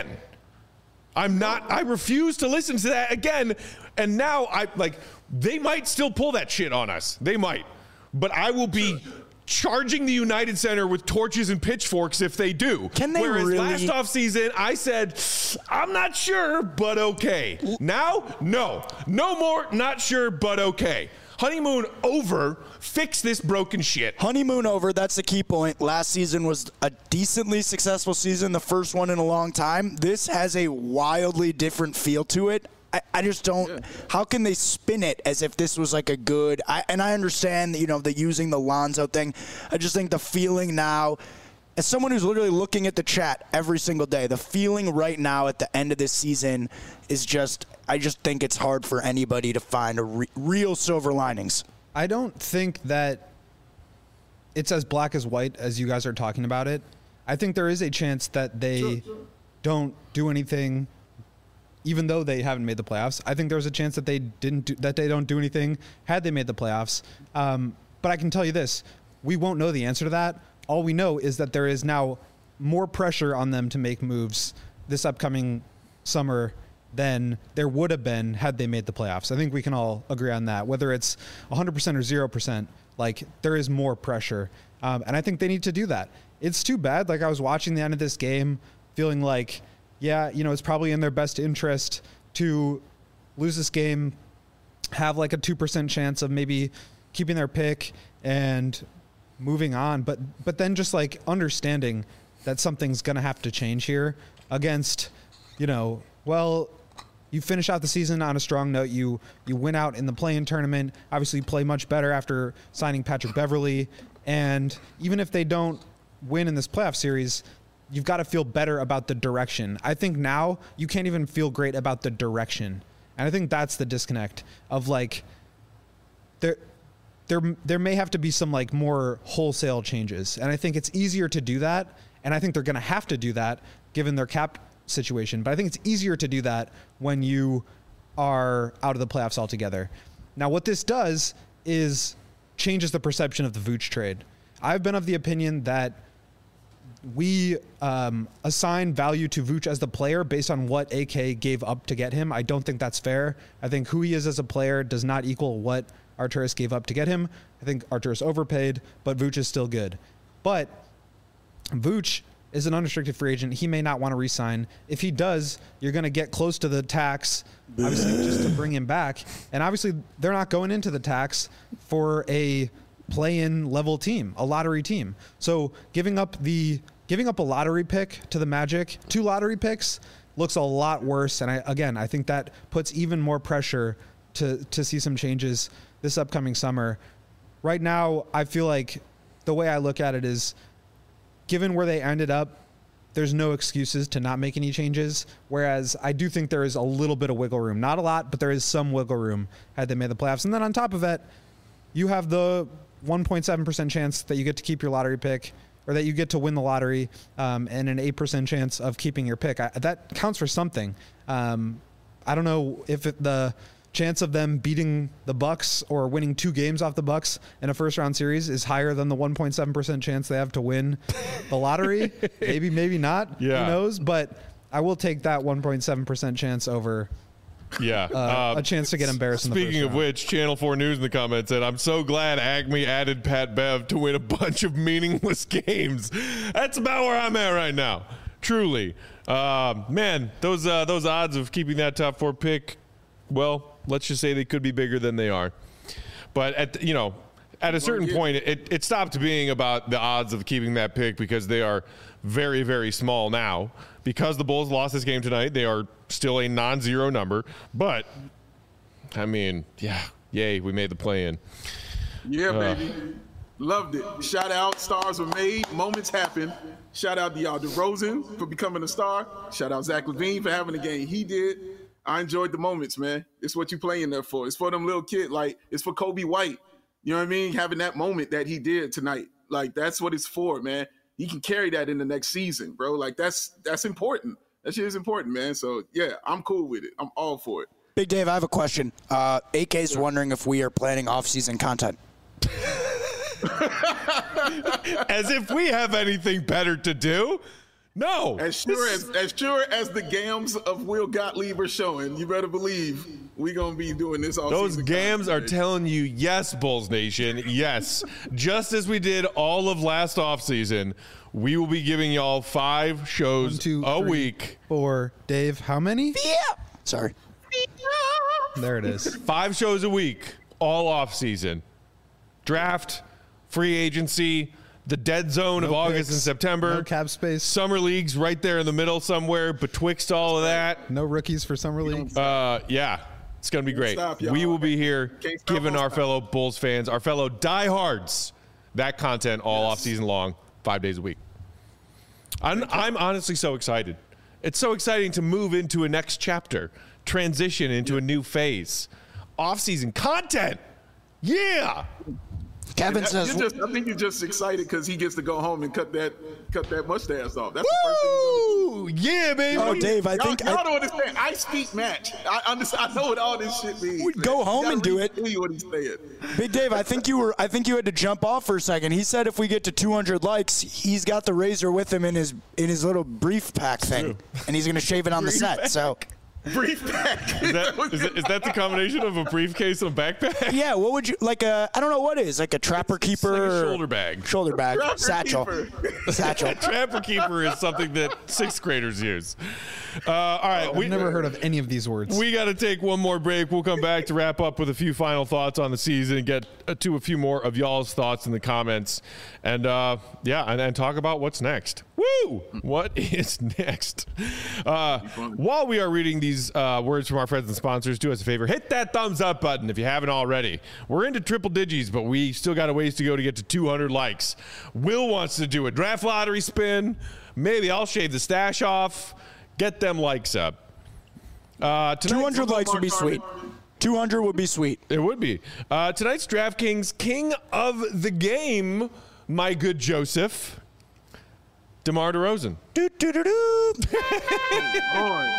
I'm not. I refuse to listen to that again. And now I like they might still pull that shit on us. They might. But I will be charging the United Center with torches and pitchforks if they do. Can they Whereas really? last offseason, I said, I'm not sure, but okay. Now, no. No more not sure, but okay. Honeymoon over. Fix this broken shit. Honeymoon over. That's the key point. Last season was a decently successful season, the first one in a long time. This has a wildly different feel to it. I, I just don't. Yeah. How can they spin it as if this was like a good? I, and I understand, you know, the using the Lonzo thing. I just think the feeling now, as someone who's literally looking at the chat every single day, the feeling right now at the end of this season is just. I just think it's hard for anybody to find a re- real silver linings. I don't think that it's as black as white as you guys are talking about it. I think there is a chance that they sure, sure. don't do anything, even though they haven't made the playoffs. I think there's a chance that they didn't do, that they don't do anything had they made the playoffs. Um, but I can tell you this: we won't know the answer to that. All we know is that there is now more pressure on them to make moves this upcoming summer than there would have been had they made the playoffs. I think we can all agree on that. Whether it's one hundred percent or zero percent, like, there is more pressure. Um, and I think they need to do that. It's too bad. Like, I was watching the end of this game feeling like, yeah, you know, it's probably in their best interest to lose this game, have like a two percent chance of maybe keeping their pick and moving on. But, but then just like understanding that something's going to have to change here against, you know, well, you finish out the season on a strong note. You you win out in the play-in tournament. Obviously, play much better after signing Patrick Beverley. And even if they don't win in this playoff series, you've got to feel better about the direction. I think now you can't even feel great about the direction. And I think that's the disconnect of, like, there there there may have to be some, like, more wholesale changes. And I think it's easier to do that. And I think they're going to have to do that given their cap situation. But I think it's easier to do that when you are out of the playoffs altogether. Now, what this does is changes the perception of the Vooch trade. I've been of the opinion that we um, assign value to Vooch as the player based on what A K gave up to get him. I don't think that's fair. I think who he is as a player does not equal what Arturas gave up to get him. I think Arturas overpaid, but Vooch is still good. But Vooch is an unrestricted free agent. He may not want to re-sign. If he does, you're going to get close to the tax, obviously, just to bring him back. And obviously, they're not going into the tax for a play-in level team, a lottery team. So giving up the giving up a lottery pick to the Magic, two lottery picks, looks a lot worse. And I, again, I think that puts even more pressure to to see some changes this upcoming summer. Right now, I feel like the way I look at it is, given where they ended up, there's no excuses to not make any changes. Whereas I do think there is a little bit of wiggle room. Not a lot, but there is some wiggle room had they made the playoffs. And then on top of it, you have the one point seven percent chance that you get to keep your lottery pick, or that you get to win the lottery, um, and an eight percent chance of keeping your pick. I, that counts for something. Um, I don't know if it, the chance of them beating the Bucks or winning two games off the Bucks in a first round series is higher than the one point seven percent chance they have to win the lottery. Maybe, maybe not. Yeah. Who knows? But I will take that one point seven percent chance over Yeah, uh, uh, a chance to get embarrassed in the Speaking first of round. which, Channel four News in the comments said, I'm so glad Acme added Pat Bev to win a bunch of meaningless games. That's about where I'm at right now. Truly. Uh, man, those uh, those odds of keeping that top four pick, well, let's just say they could be bigger than they are. But, at you know, at a certain point, it, it stopped being about the odds of keeping that pick because they are very, very small now. Because the Bulls lost this game tonight, they are still a non-zero number. But, I mean, yeah, yay, we made the play-in. Yeah, Uh. baby. Loved it. Shout out, stars were made, moments happen. Shout out to y'all DeRozan for becoming a star. Shout out Zach LaVine for having the game he did. I enjoyed the moments, man. It's what you playing there for. It's for them little kids. Like, it's for Kobe White. You know what I mean? Having that moment that he did tonight. Like, that's what it's for, man. He can carry that in the next season, bro. Like, that's that's important. That shit is important, man. So, yeah, I'm cool with it. I'm all for it. Big Dave, I have a question. Uh, A K's wondering if we are planning off-season content. As if we have anything better to do. No. As sure as as sure as the gams of Will Gottlieb are showing, you better believe we gonna be doing this all Those season. gams are telling you, yes, Bulls Nation, yes. Just as we did all of last offseason, we will be giving y'all five shows One, two, a three, week. Four. Dave, how many? Yeah. Sorry. There it is. Five shows a week, all off season. Draft, free agency, the dead zone of No August picks, and September. no cap space. Summer leagues right there in the middle somewhere betwixt all of that. No rookies for summer league. Uh, yeah, it's going to be great. stop, y'all. We will be here Can't stop, giving won't our stop. fellow Bulls fans, our fellow diehards, that content all Yes. off season long, five days a week. I'm, I'm honestly so excited. It's so exciting to move into a next chapter, transition into a new phase. Off season content. Yeah. Kevin That- says, you're just, I think you're just excited because he gets to go home and cut that cut that mustache off. That's the first thing he's gonna do. Woo! Yeah, baby. oh, Dave, I Y'all, think y'all I, don't understand. I speak match. I understand. I know what all this shit means. We man. go You home gotta and do read- it. Tell you what he's saying. Big Dave, I think you were. I think you had to jump off for a second. He said if we get to two hundred likes, he's got the razor with him in his in his little brief pack thing, and he's gonna shave it on the set. So, Brief back. Is that, is, that, is that the combination of a briefcase and a backpack? yeah, what would you like? A I don't know what it is like a trapper keeper, like a or- shoulder bag. shoulder bag, Trapper satchel, keeper. satchel. Trapper keeper is something that sixth graders use. Uh, all right, we I've never heard of any of these words. we got to take one more break. We'll come back to wrap up with a few final thoughts on the season and get uh, to a few more of y'all's thoughts in the comments, and uh, yeah, and, and talk about what's next. Woo! What is next? Uh, while we are reading these uh, words from our friends and sponsors, do us a favor, hit that thumbs up button if you haven't already. We're into triple digits, but we still got a ways to go to get to two hundred likes. Will wants to do a draft lottery spin. Maybe I'll shave the stash off. Get them likes up. Uh, two tonight's- hundred likes would be sweet. two hundred would be sweet. It would be. Uh, tonight's DraftKings King of the Game, my good Joseph, DeMar DeRozan. Do, do, do, do. Lord.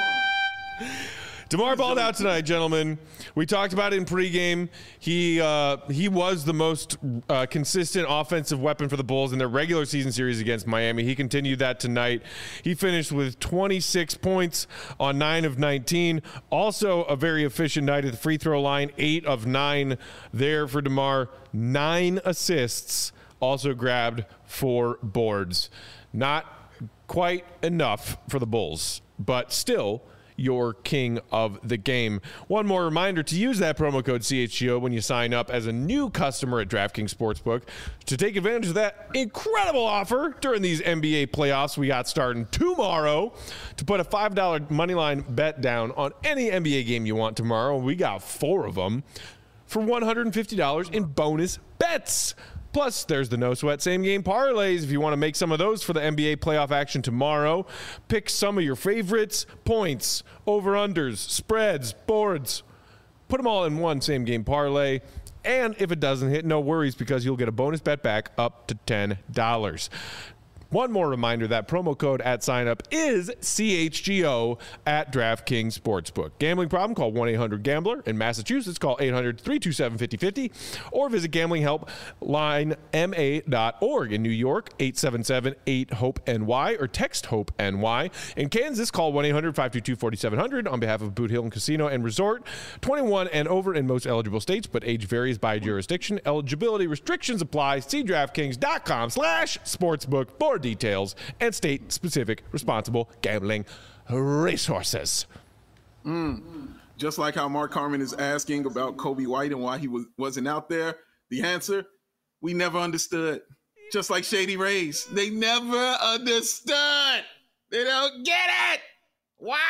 DeMar balled out tonight, gentlemen. We talked about it in pregame. He uh, he was the most uh, consistent offensive weapon for the Bulls in their regular season series against Miami. He continued that tonight. He finished with twenty-six points on nine of nineteen. Also a very efficient night at the free throw line, eight of nine there for DeMar. Nine assists, also grabbed four boards. Not quite enough for the Bulls, but still your king of the game. One more reminder to use that promo code C H G O when you sign up as a new customer at DraftKings Sportsbook to take advantage of that incredible offer during these N B A playoffs we got starting tomorrow. To put a five dollar moneyline bet down on any N B A game you want tomorrow, we got four of them for one hundred fifty dollars in bonus bets. Plus, there's the no sweat same game parlays if you want to make some of those for the N B A playoff action tomorrow. Pick some of your favorites, points, over-unders, spreads, boards. Put them all in one same game parlay. And if it doesn't hit, no worries, because you'll get a bonus bet back up to ten dollars. One more reminder, that promo code at signup is C H G O at DraftKings Sportsbook. Gambling problem? Call one eight hundred gambler. In Massachusetts, call eight hundred, three two seven, five oh five oh or visit gambling help line m a dot org. In New York, eight seven seven, eight, hope N Y or text HOPE-N Y. In Kansas, call one eight hundred, five two two, four seven zero zero on behalf of Boot Hill and Casino and Resort. twenty-one and over in most eligible states, but age varies by jurisdiction. Eligibility restrictions apply. See DraftKings.com slash sportsbook for details and state-specific responsible gambling resources. Mm. Just like how Mark Carmen is asking about Kobe White and why he was, wasn't out there, the answer, we never understood. Just like Shady Rays, they never understood. They don't get it. Why?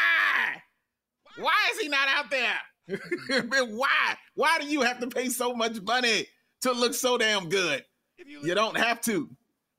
Why is he not out there? Why? Why do you have to pay so much money to look so damn good? You, you don't have to.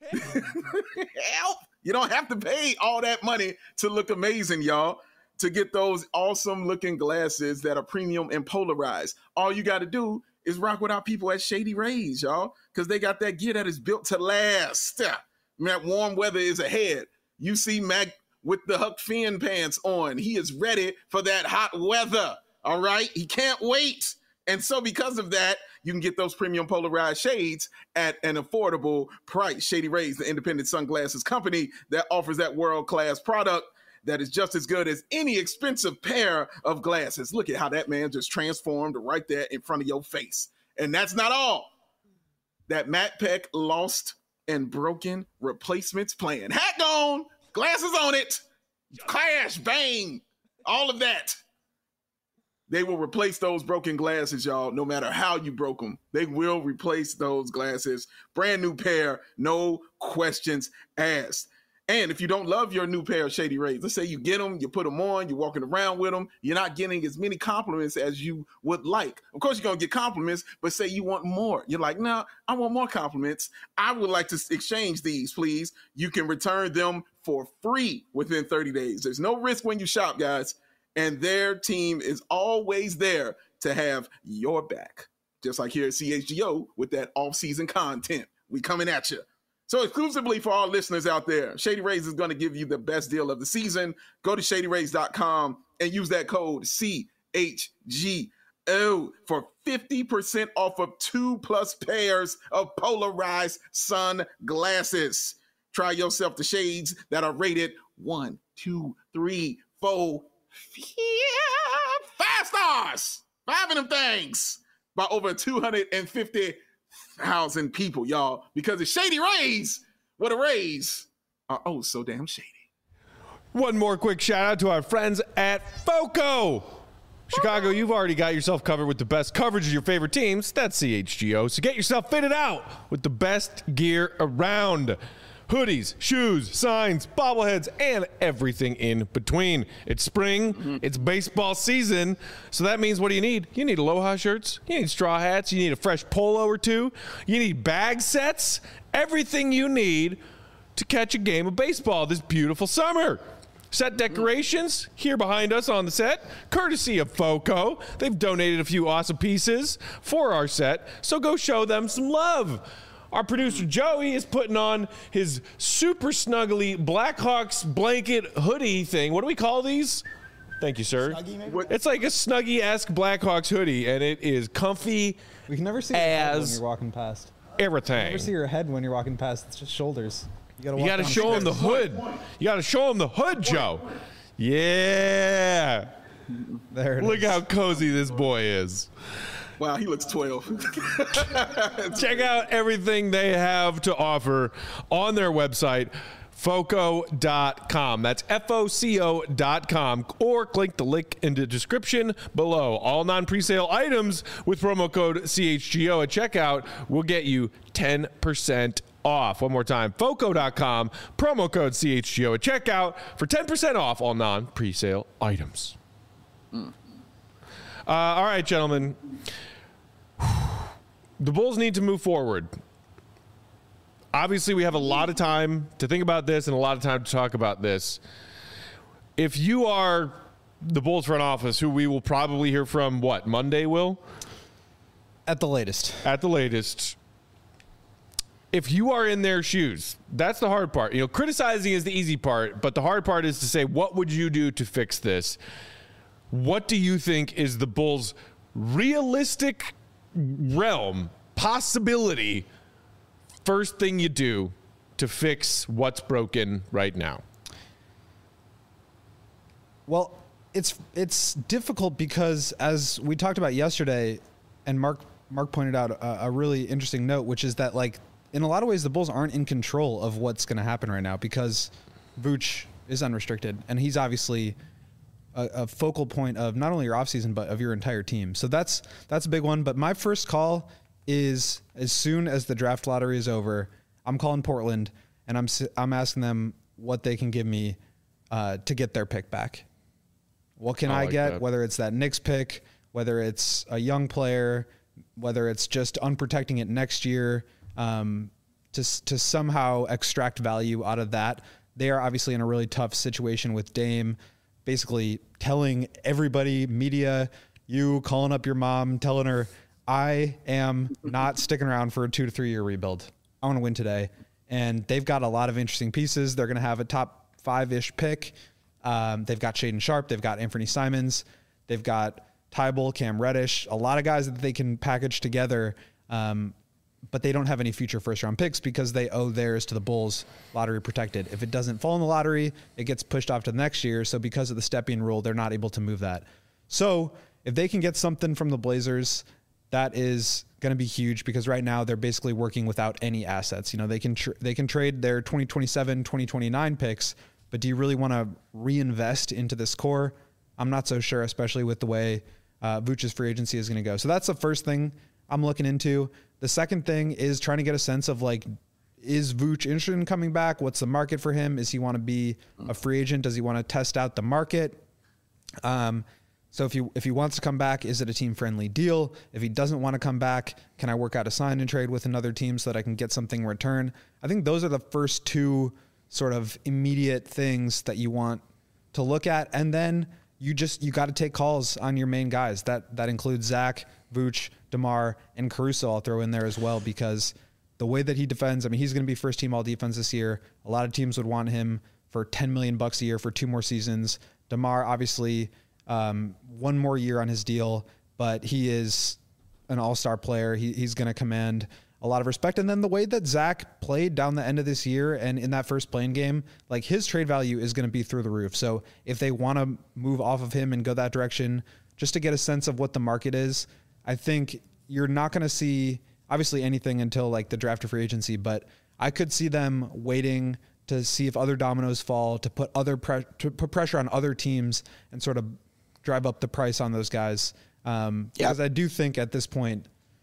Help! You don't have to pay all that money to look amazing, y'all, to get those awesome looking glasses that are premium and polarized. All you got to do is rock with our people at Shady Rays, y'all, because they got that gear that is built to last. That warm weather is ahead. You see Mac with the Huck Finn pants on. He is ready for that hot weather, all right? He can't wait. And so because of that, you can get those premium polarized shades at an affordable price. Shady Rays, the independent sunglasses company that offers that world-class product that is just as good as any expensive pair of glasses. Look at how that man just transformed right there in front of your face. And that's not all. That Matt Peck lost and broken replacements plan. Hat gone, glasses on it, clash, bang, all of that. They will replace those broken glasses, y'all, no matter how you broke them. They will replace those glasses. Brand new pair, no questions asked. And if you don't love your new pair of Shady Rays, let's say you get them, you put them on, you're walking around with them, you're not getting as many compliments as you would like. Of course, you're going to get compliments, but say you want more. You're like, no, I want more compliments. I would like to exchange these, please. You can return them for free within thirty days. There's no risk when you shop, guys. And their team is always there to have your back. Just like here at C H G O with that off-season content. We coming at you. So exclusively for our listeners out there, Shady Rays is going to give you the best deal of the season. Go to shady rays dot com and use that code C H G O for fifty percent off of two plus pairs of polarized sunglasses. Try yourself the shades that are rated one, two, three, four, five stars. Five of them things by over two hundred fifty thousand people, y'all, because it's Shady Rays, where the Rays are oh so damn shady. One more quick shout out to our friends at FOCO. Chicago, you've already got yourself covered with the best coverage of your favorite teams. That's C H G O. So get yourself fitted out with the best gear around. Hoodies, shoes, signs, bobbleheads, and everything in between. It's spring. Mm-hmm. It's baseball season. So that means, what do you need? You need Aloha shirts. You need straw hats. You need a fresh polo or two. You need bag sets. Everything you need to catch a game of baseball this beautiful summer. Set decorations here behind us on the set, courtesy of FOCO. They've donated a few awesome pieces for our set, so go show them some love. Our producer, Joey, is putting on his super snuggly Blackhawks blanket hoodie thing. What do we call these? Thank you, sir. Snuggie, it's like a Snuggie-esque Blackhawks hoodie, and it is comfy. We can never see your head when you're walking past. Everything. You never see your head when you're walking past. It's just shoulders. You got to show him the hood. You got to show him the hood, Joe. Yeah. There it Look is. how cozy this boy is. Wow, he looks twelve. Check out everything they have to offer on their website, foco dot com. That's F O C O dot com. Or click the link in the description below. All non-presale items with promo code C H G O at checkout will get you ten percent off. One more time, foco dot com, promo code C H G O at checkout for ten percent off all non-presale items. Mm. Uh, all right, gentlemen. The Bulls need to move forward. Obviously, we have a lot of time to think about this and a lot of time to talk about this. If you are the Bulls front office, who we will probably hear from, what, Monday, Will? At the latest. At the latest. If you are in their shoes, that's the hard part. You know, criticizing is the easy part, but the hard part is to say, what would you do to fix this? What do you think is the Bulls' realistic realm, possibility, first thing you do to fix what's broken right now? Well, it's it's difficult because, as we talked about yesterday, and Mark Mark pointed out a, a really interesting note, which is that, like, in a lot of ways, the Bulls aren't in control of what's going to happen right now because Vooch is unrestricted, and he's obviously a, a focal point of not only your offseason, but of your entire team. So that's that's a big one. But my first call is, as soon as the draft lottery is over, I'm calling Portland, and I'm I'm asking them what they can give me uh, to get their pick back. What can I, I like get, that. Whether it's that Knicks pick, whether it's a young player, whether it's just unprotecting it next year, Um, to to somehow extract value out of that. They are obviously in a really tough situation with Dame, basically telling everybody, media, you calling up your mom, telling her, I am not sticking around for a two to three year rebuild. I want to win today. And they've got a lot of interesting pieces. They're going to have a top five-ish pick. Um, they've got Shaedon Sharpe. They've got Anthony Simons. They've got Tybal, Cam Reddish, a lot of guys that they can package together. Um, but they don't have any future first-round picks because they owe theirs to the Bulls, lottery protected. If it doesn't fall in the lottery, it gets pushed off to the next year. So because of the stepping rule, they're not able to move that. So if they can get something from the Blazers, that is going to be huge because right now they're basically working without any assets. You know, they can tr- they can trade their twenty twenty-seven, twenty twenty-nine picks, but do you really want to reinvest into this core? I'm not so sure, especially with the way uh, Vooch's free agency is going to go. So that's the first thing I'm looking into. The second thing is trying to get a sense of, like, is Vooch interested in coming back? What's the market for him? Is he want to be a free agent? Does he want to test out the market? Um, so if he, if he wants to come back, is it a team-friendly deal? If he doesn't want to come back, can I work out a sign and trade with another team so that I can get something in return? I think those are the first two sort of immediate things that you want to look at. And then you just, you got to take calls on your main guys. That, that includes Zach, Vooch, DeMar, and Caruso. I'll throw in there as well because the way that he defends, I mean, he's going to be first team all defense this year. A lot of teams would want him for ten million bucks a year for two more seasons. DeMar, obviously, um, one more year on his deal, but he is an all-star player. He, he's going to command a lot of respect. And then the way that Zach played down the end of this year and in that first playing game, like, his trade value is going to be through the roof. So if they want to move off of him and go that direction, just to get a sense of what the market is, I think you're not going to see obviously anything until, like, the draft or free agency, but I could see them waiting to see if other dominoes fall, to put other pre- to put pressure on other teams and sort of drive up the price on those guys. Um, yep. Because I do think at this point,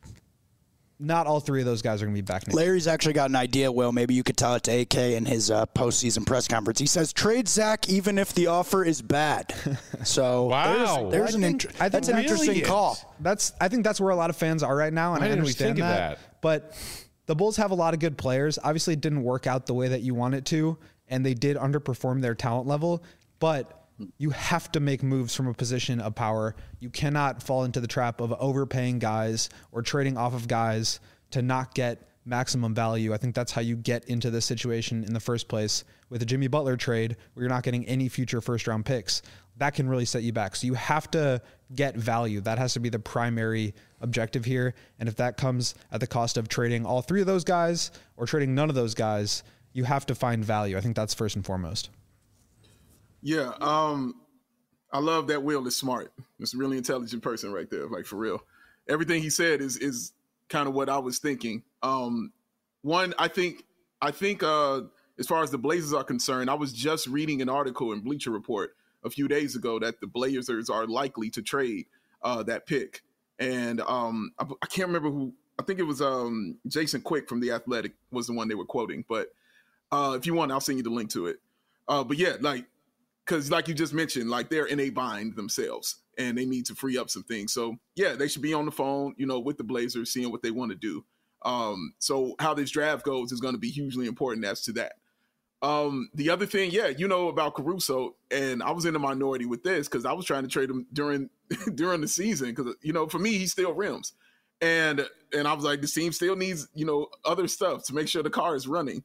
not all three of those guys are going to be back next Larry's actually got an idea, Will. Maybe you could tell it to A K in his uh, postseason press conference. He says, trade Zach even if the offer is bad. So wow. there's, there's an think, inter- that's an interesting call. That's I think that's where a lot of fans are right now, and Why I didn't understand we think that. of that. But the Bulls have a lot of good players. Obviously, it didn't work out the way that you want it to, and they did underperform their talent level. But you have to make moves from a position of power. You cannot fall into the trap of overpaying guys or trading off of guys to not get maximum value. I think that's how you get into this situation in the first place with a Jimmy Butler trade where you're not getting any future first round picks. That can really set you back. So you have to get value. That has to be the primary objective here. And if that comes at the cost of trading all three of those guys or trading none of those guys, you have to find value. I think that's first and foremost. Yeah. Um, I love that Will is smart. It's a really intelligent person right there. Like, for real. Everything he said is, is, kind of what I was thinking. Um, one, I think, I think uh, as far as the Blazers are concerned, I was just reading an article in Bleacher Report a few days ago that the Blazers are likely to trade uh, that pick. And um, I, I can't remember who, I think it was um, Jason Quick from The Athletic was the one they were quoting. But uh, if you want, I'll send you the link to it. Uh, but yeah, like, because like you just mentioned, like, they're in a bind themselves and they need to free up some things. So yeah, they should be on the phone, you know, with the Blazers, seeing what they want to do. Um, so how this draft goes is going to be hugely important as to that. Um, the other thing, yeah, you know about Caruso, and I was in the minority with this because I was trying to trade him during during the season because, you know, for me, he still rims. And and I was like, the team still needs, you know, other stuff to make sure the car is running.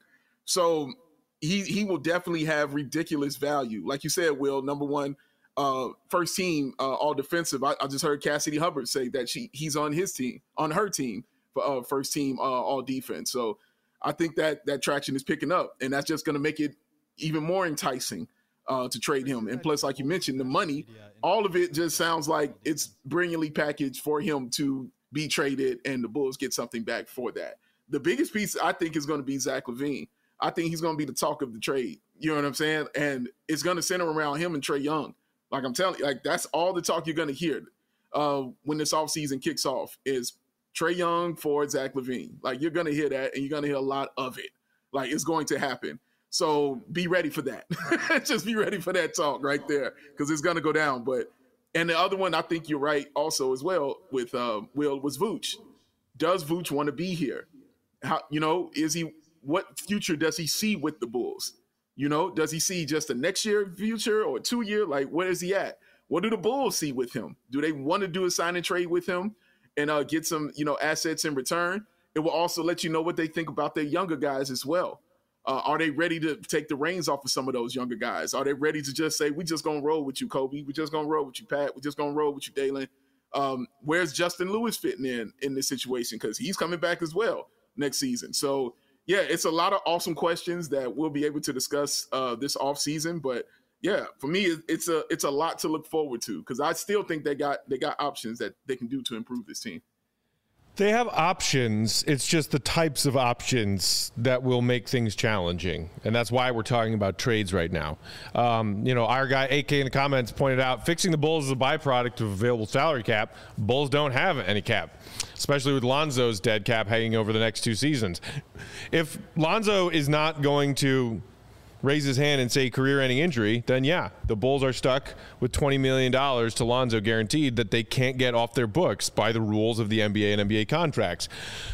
So he he will definitely have ridiculous value. Like you said, Will, number one, uh, first team, uh, all defensive. I, I just heard Cassidy Hubbard say that she he's on his team, on her team for uh, first team, uh, all defense. So I think that that traction is picking up, and that's just going to make it even more enticing uh, to trade him. And plus, like you mentioned, the money, all of it just sounds like it's brilliantly packaged for him to be traded, and the Bulls get something back for that. The biggest piece, I think, is going to be Zach LaVine. I think he's going to be the talk of the trade. You know what I'm saying? And it's going to center around him and Trae Young. Like I'm telling you, like that's all the talk you're going to hear uh, when this offseason kicks off is Trae Young for Zach LaVine. Like you're going to hear that, and you're going to hear a lot of it. Like it's going to happen. So be ready for that. Just be ready for that talk right there, because it's going to go down. But and the other one, I think you're right also as well with uh, Will, was Vooch. Does Vooch want to be here? How, you know, is he, what future does he see with the Bulls? You know, does he see just a next year future or two year? Like, where is he at? What do the Bulls see with him? Do they want to do a sign and trade with him and uh, get some, you know, assets in return? It will also let you know what they think about their younger guys as well. Uh, are they ready to take the reins off of some of those younger guys? Are they ready to just say, we just going to roll with you, Kobe? We just going to roll with you, Pat. We just going to roll with you, Dalen. Um, where's Justin Lewis fitting in in this situation? Because he's coming back as well next season. So, yeah, it's a lot of awesome questions that we'll be able to discuss uh, this offseason. But, yeah, for me, it's a it's a lot to look forward to, because I still think they got they got options that they can do to improve this team. They have options. It's just the types of options that will make things challenging. And that's why we're talking about trades right now. Um, you know, our guy A K in the comments pointed out fixing the Bulls is a byproduct of available salary cap. Bulls don't have any cap, especially with Lonzo's dead cap hanging over the next two seasons. If Lonzo is not going to raise his hand and say career-ending injury, then yeah, the Bulls are stuck with twenty million dollars to Lonzo guaranteed that they can't get off their books by the rules of the N B A and N B A contracts.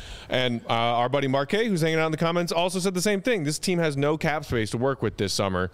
And uh, our buddy Marquet, who's hanging out in the comments, also said the same thing. This team has no cap space to work with this summer.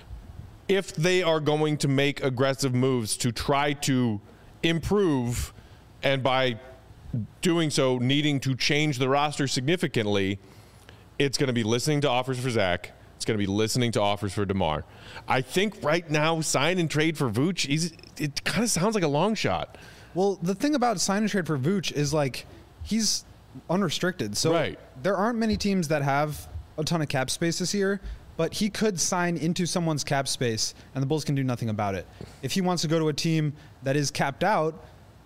If they are going to make aggressive moves to try to improve, and by doing so needing to change the roster significantly, it's going to be listening to offers for Zach. It's going to be listening to offers for DeMar. I think right now, sign and trade for Vooch, he's, it kind of sounds like a long shot. Well, the thing about sign and trade for Vooch is, like, he's unrestricted. So right. There aren't many teams that have a ton of cap space this year, but he could sign into someone's cap space, and the Bulls can do nothing about it. If he wants to go to a team that is capped out,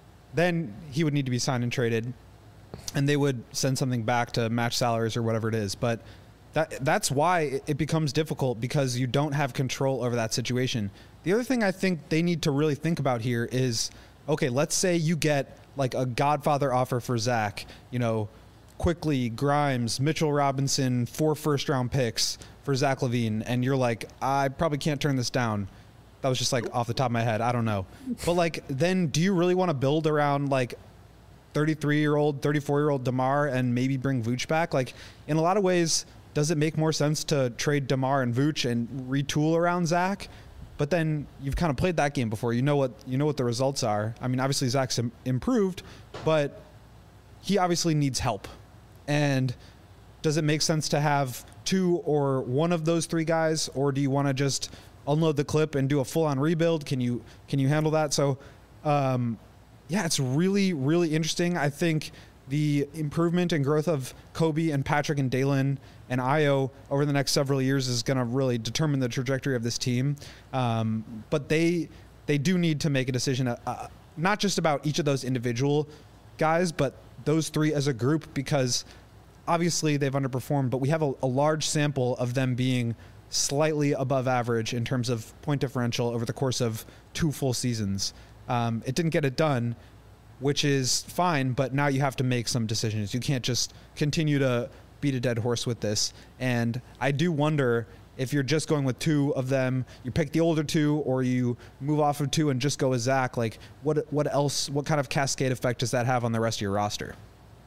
then he would need to be signed and traded, and they would send something back to match salaries or whatever it is. But That, that's why it becomes difficult, because you don't have control over that situation. The other thing I think they need to really think about here is, okay, let's say you get like a Godfather offer for Zach, you know, Quickly, Grimes, Mitchell Robinson, four first round picks for Zach LaVine. And you're like, I probably can't turn this down. That was just like off the top of my head. I don't know. But like, then do you really want to build around like thirty-three year old, thirty-four year old DeMar and maybe bring Vooch back? Like, in a lot of ways, does it make more sense to trade DeMar and Vooch and retool around Zach? But then you've kind of played that game before. You know what you know what the results are. I mean, obviously Zach's im- improved, but he obviously needs help. And does it make sense to have two or one of those three guys, or do you want to just unload the clip and do a full-on rebuild? Can you can you handle that? So, um, yeah, it's really really interesting. I think the improvement and growth of Kobe and Patrick and Dalen and Ayo over the next several years is going to really determine the trajectory of this team. Um, but they they do need to make a decision, uh, not just about each of those individual guys, but those three as a group, because obviously they've underperformed, but we have a, a large sample of them being slightly above average in terms of point differential over the course of two full seasons. Um, it didn't get it done, which is fine, but now you have to make some decisions. You can't just continue to beat a dead horse with this. And I do wonder if you're just going with two of them, you pick the older two, or you move off of two and just go with Zach. Like, what what else, what kind of cascade effect does that have on the rest of your roster?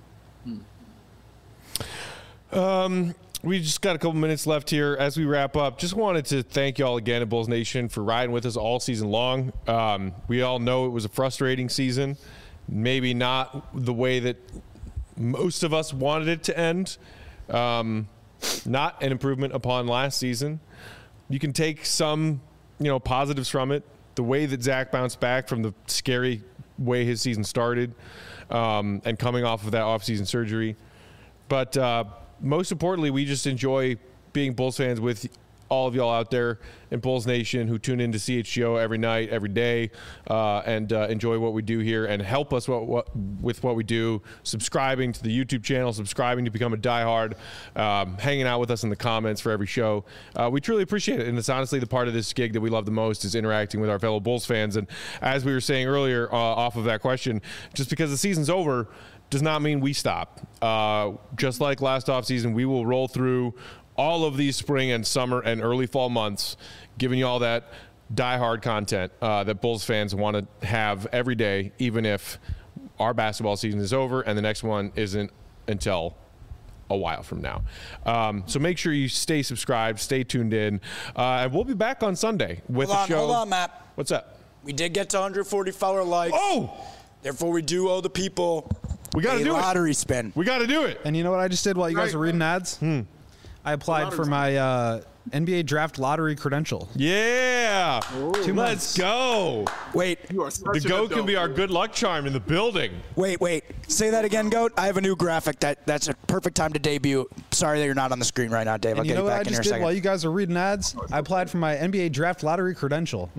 Um, we just got a couple minutes left here as we wrap up. Just wanted to thank y'all again at Bulls Nation for riding with us all season long. Um, we all know it was a frustrating season. maybe not the way that most of us wanted it to end. Um, not an improvement upon last season. You can take some, you know, positives from it. The way that Zach bounced back from the scary way his season started, um, and coming off of that offseason surgery. But uh, most importantly, we just enjoy being Bulls fans with all of y'all out there in Bulls Nation who tune into C H G O every night, every day, uh, and uh, enjoy what we do here and help us what, what, with what we do, subscribing to the YouTube channel, subscribing to become a diehard, um, hanging out with us in the comments for every show. Uh, we truly appreciate it, and it's honestly the part of this gig that we love the most is interacting with our fellow Bulls fans. And as we were saying earlier uh, off of that question, just because the season's over does not mean we stop. Uh, just like last offseason, we will roll through all of these spring and summer and early fall months, giving you all that diehard content uh, that Bulls fans want to have every day, even if our basketball season is over and the next one isn't until a while from now. Um, so make sure you stay subscribed, stay tuned in, uh, and we'll be back on Sunday with Hold the on, show. hold on, Matt. What's up? We did get to one hundred forty follower likes. Oh! Therefore, we do owe the people We got to a do it. lottery spin. We got to do it. And you know what I just did while you guys were reading ads? Hmm. I applied for my uh, N B A draft lottery credential. Yeah. Two Let's months. go. Wait, You are such The an GOAT can adult. be our good luck charm in the building. wait, wait. Say that again, Goat. I have a new graphic. That That's a perfect time to debut. Sorry that you're not on the screen right now, Dave. I'll And you get know you what I back in here just in a did while second. you guys were reading ads? I applied for my N B A draft lottery credential.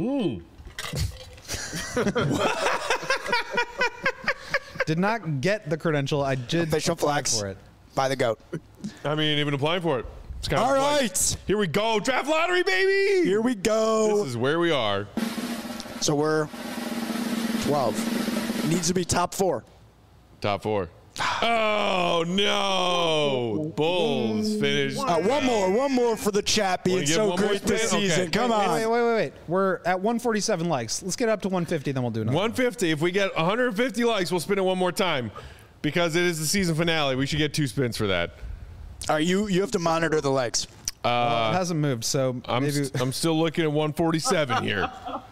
Did not get the credential. I did Official apply flex for it. by the GOAT. I mean, even applying for it. It's kind All of like, right. Here we go. Draft lottery, baby. Here we go. This is where we are. So we're twelve. Needs to be top four. Top four. Oh, no. Bulls finished. Uh, one more, one more for the chat being Wanna give so one more great this spin? Okay. season. Come Wait, on. wait, wait, wait, wait. We're at one forty-seven likes. Let's get up to one fifty, then we'll do another. one fifty. If we get one hundred fifty likes, we'll spin it one more time. Because it is the season finale. We should get two spins for that. All right, you you have to monitor the legs. Well, it hasn't moved, so I'm, maybe. st- I'm still looking at one forty-seven here.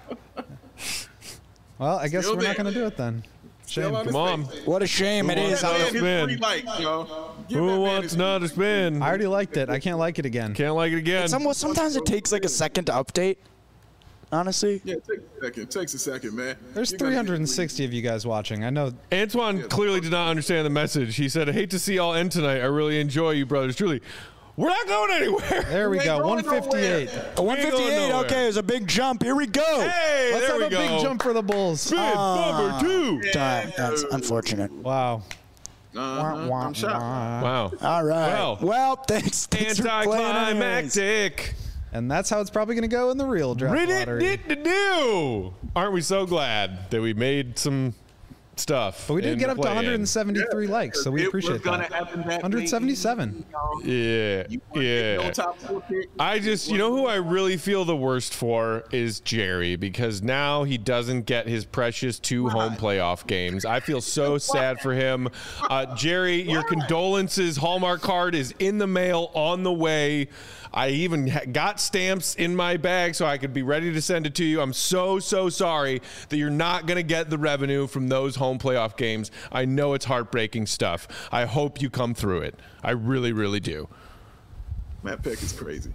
Well, I guess Still we're not there. going to do it then. Shame. Still on his Come on. face. What a shame it Who is. wants Give another that man his spin? three likes, yo. Give that Who man wants his- another spin? I already liked it. I can't like it again. Can't like it again. Some, sometimes it takes like a second to update. Honestly, Yeah, it takes a second. It takes a second, man. There's You gotta three get hundred sixty of you guys watching. I know. Antoine clearly did not understand the message. He said, I hate to see y'all end tonight. I really enjoy you, brothers. Truly, we're not going anywhere. There we ain't go. going one fifty-eight. a one fifty-eight. nowhere. Okay, it was a big jump. Here we go. Hey, Let's there have we a go. big jump for the Bulls. Spin Ah. number two. Damn, that's unfortunate. Wow. Uh-huh. I'm shocked. Wow. All right. Well. Well, thanks. thanks for playing anyways. Anticlimactic. And that's how it's probably going to go in the real draft lottery. Do. Aren't we so glad that we made some stuff? But we did in get the up to play-in? one hundred seventy-three likes, so we It appreciate was gonna that. happen that one hundred seventy-seven. Yeah, You wanna get yeah. no top four pick? I just, you know who I really feel the worst for is Jerry, because now he doesn't get his precious two home playoff games. I feel so sad for him. Uh, Jerry, your condolences Hallmark card is in the mail on the way. I even ha- got stamps in my bag so I could be ready to send it to you. I'm so, so sorry that you're not going to get the revenue from those home playoff games. I know it's heartbreaking stuff. I hope you come through it. I really, really do. Matt Peck is crazy.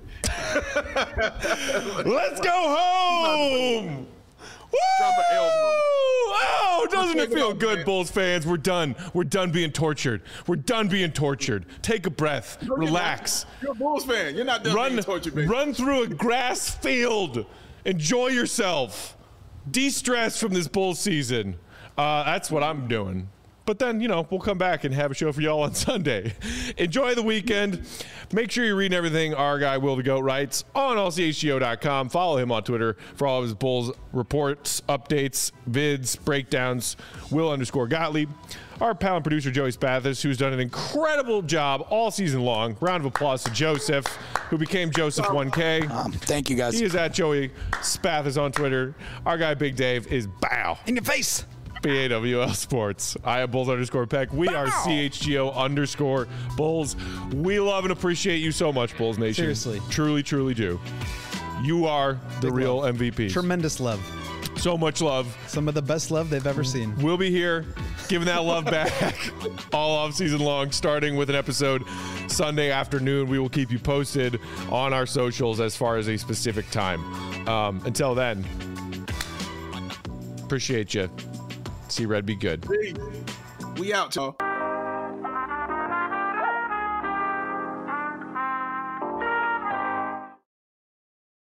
Let's go home! Woo! Drop an elbow. Oh, doesn't it Take it feel off, good, man. Bulls fans? We're done. We're done being tortured. We're done being tortured. Take a breath. Relax. You're a Bulls fan. You're not done Run, being tortured, baby. run through a grass field. Enjoy yourself. De-stress from this Bulls season. Uh, that's what I'm doing. But then, you know, we'll come back and have a show for y'all on Sunday. Enjoy the weekend. Make sure you're reading everything our guy Will the Goat writes on all c h g o dot com. Follow him on Twitter for all of his Bulls reports, updates, vids, breakdowns. Will underscore Gottlieb. Our pal and producer Joey Spathis, who's done an incredible job all season long. Round of applause to Joseph, who became Joseph one K. Um, thank you, guys. He is at Joey Spathis on Twitter. Our guy Big Dave is Bow. In your face. B A W L Sports. I am Bulls underscore Peck. We are C H G O underscore Bulls. We love and appreciate you so much, Bulls Nation. Seriously. Truly, truly do. You are the Big real love. M V Ps. Tremendous love. So much love. Some of the best love they've ever seen. We'll be here giving that love back all off season long, starting with an episode Sunday afternoon. We will keep you posted on our socials as far as a specific time. Um, until then, appreciate you. See Red be good. We out, y'all.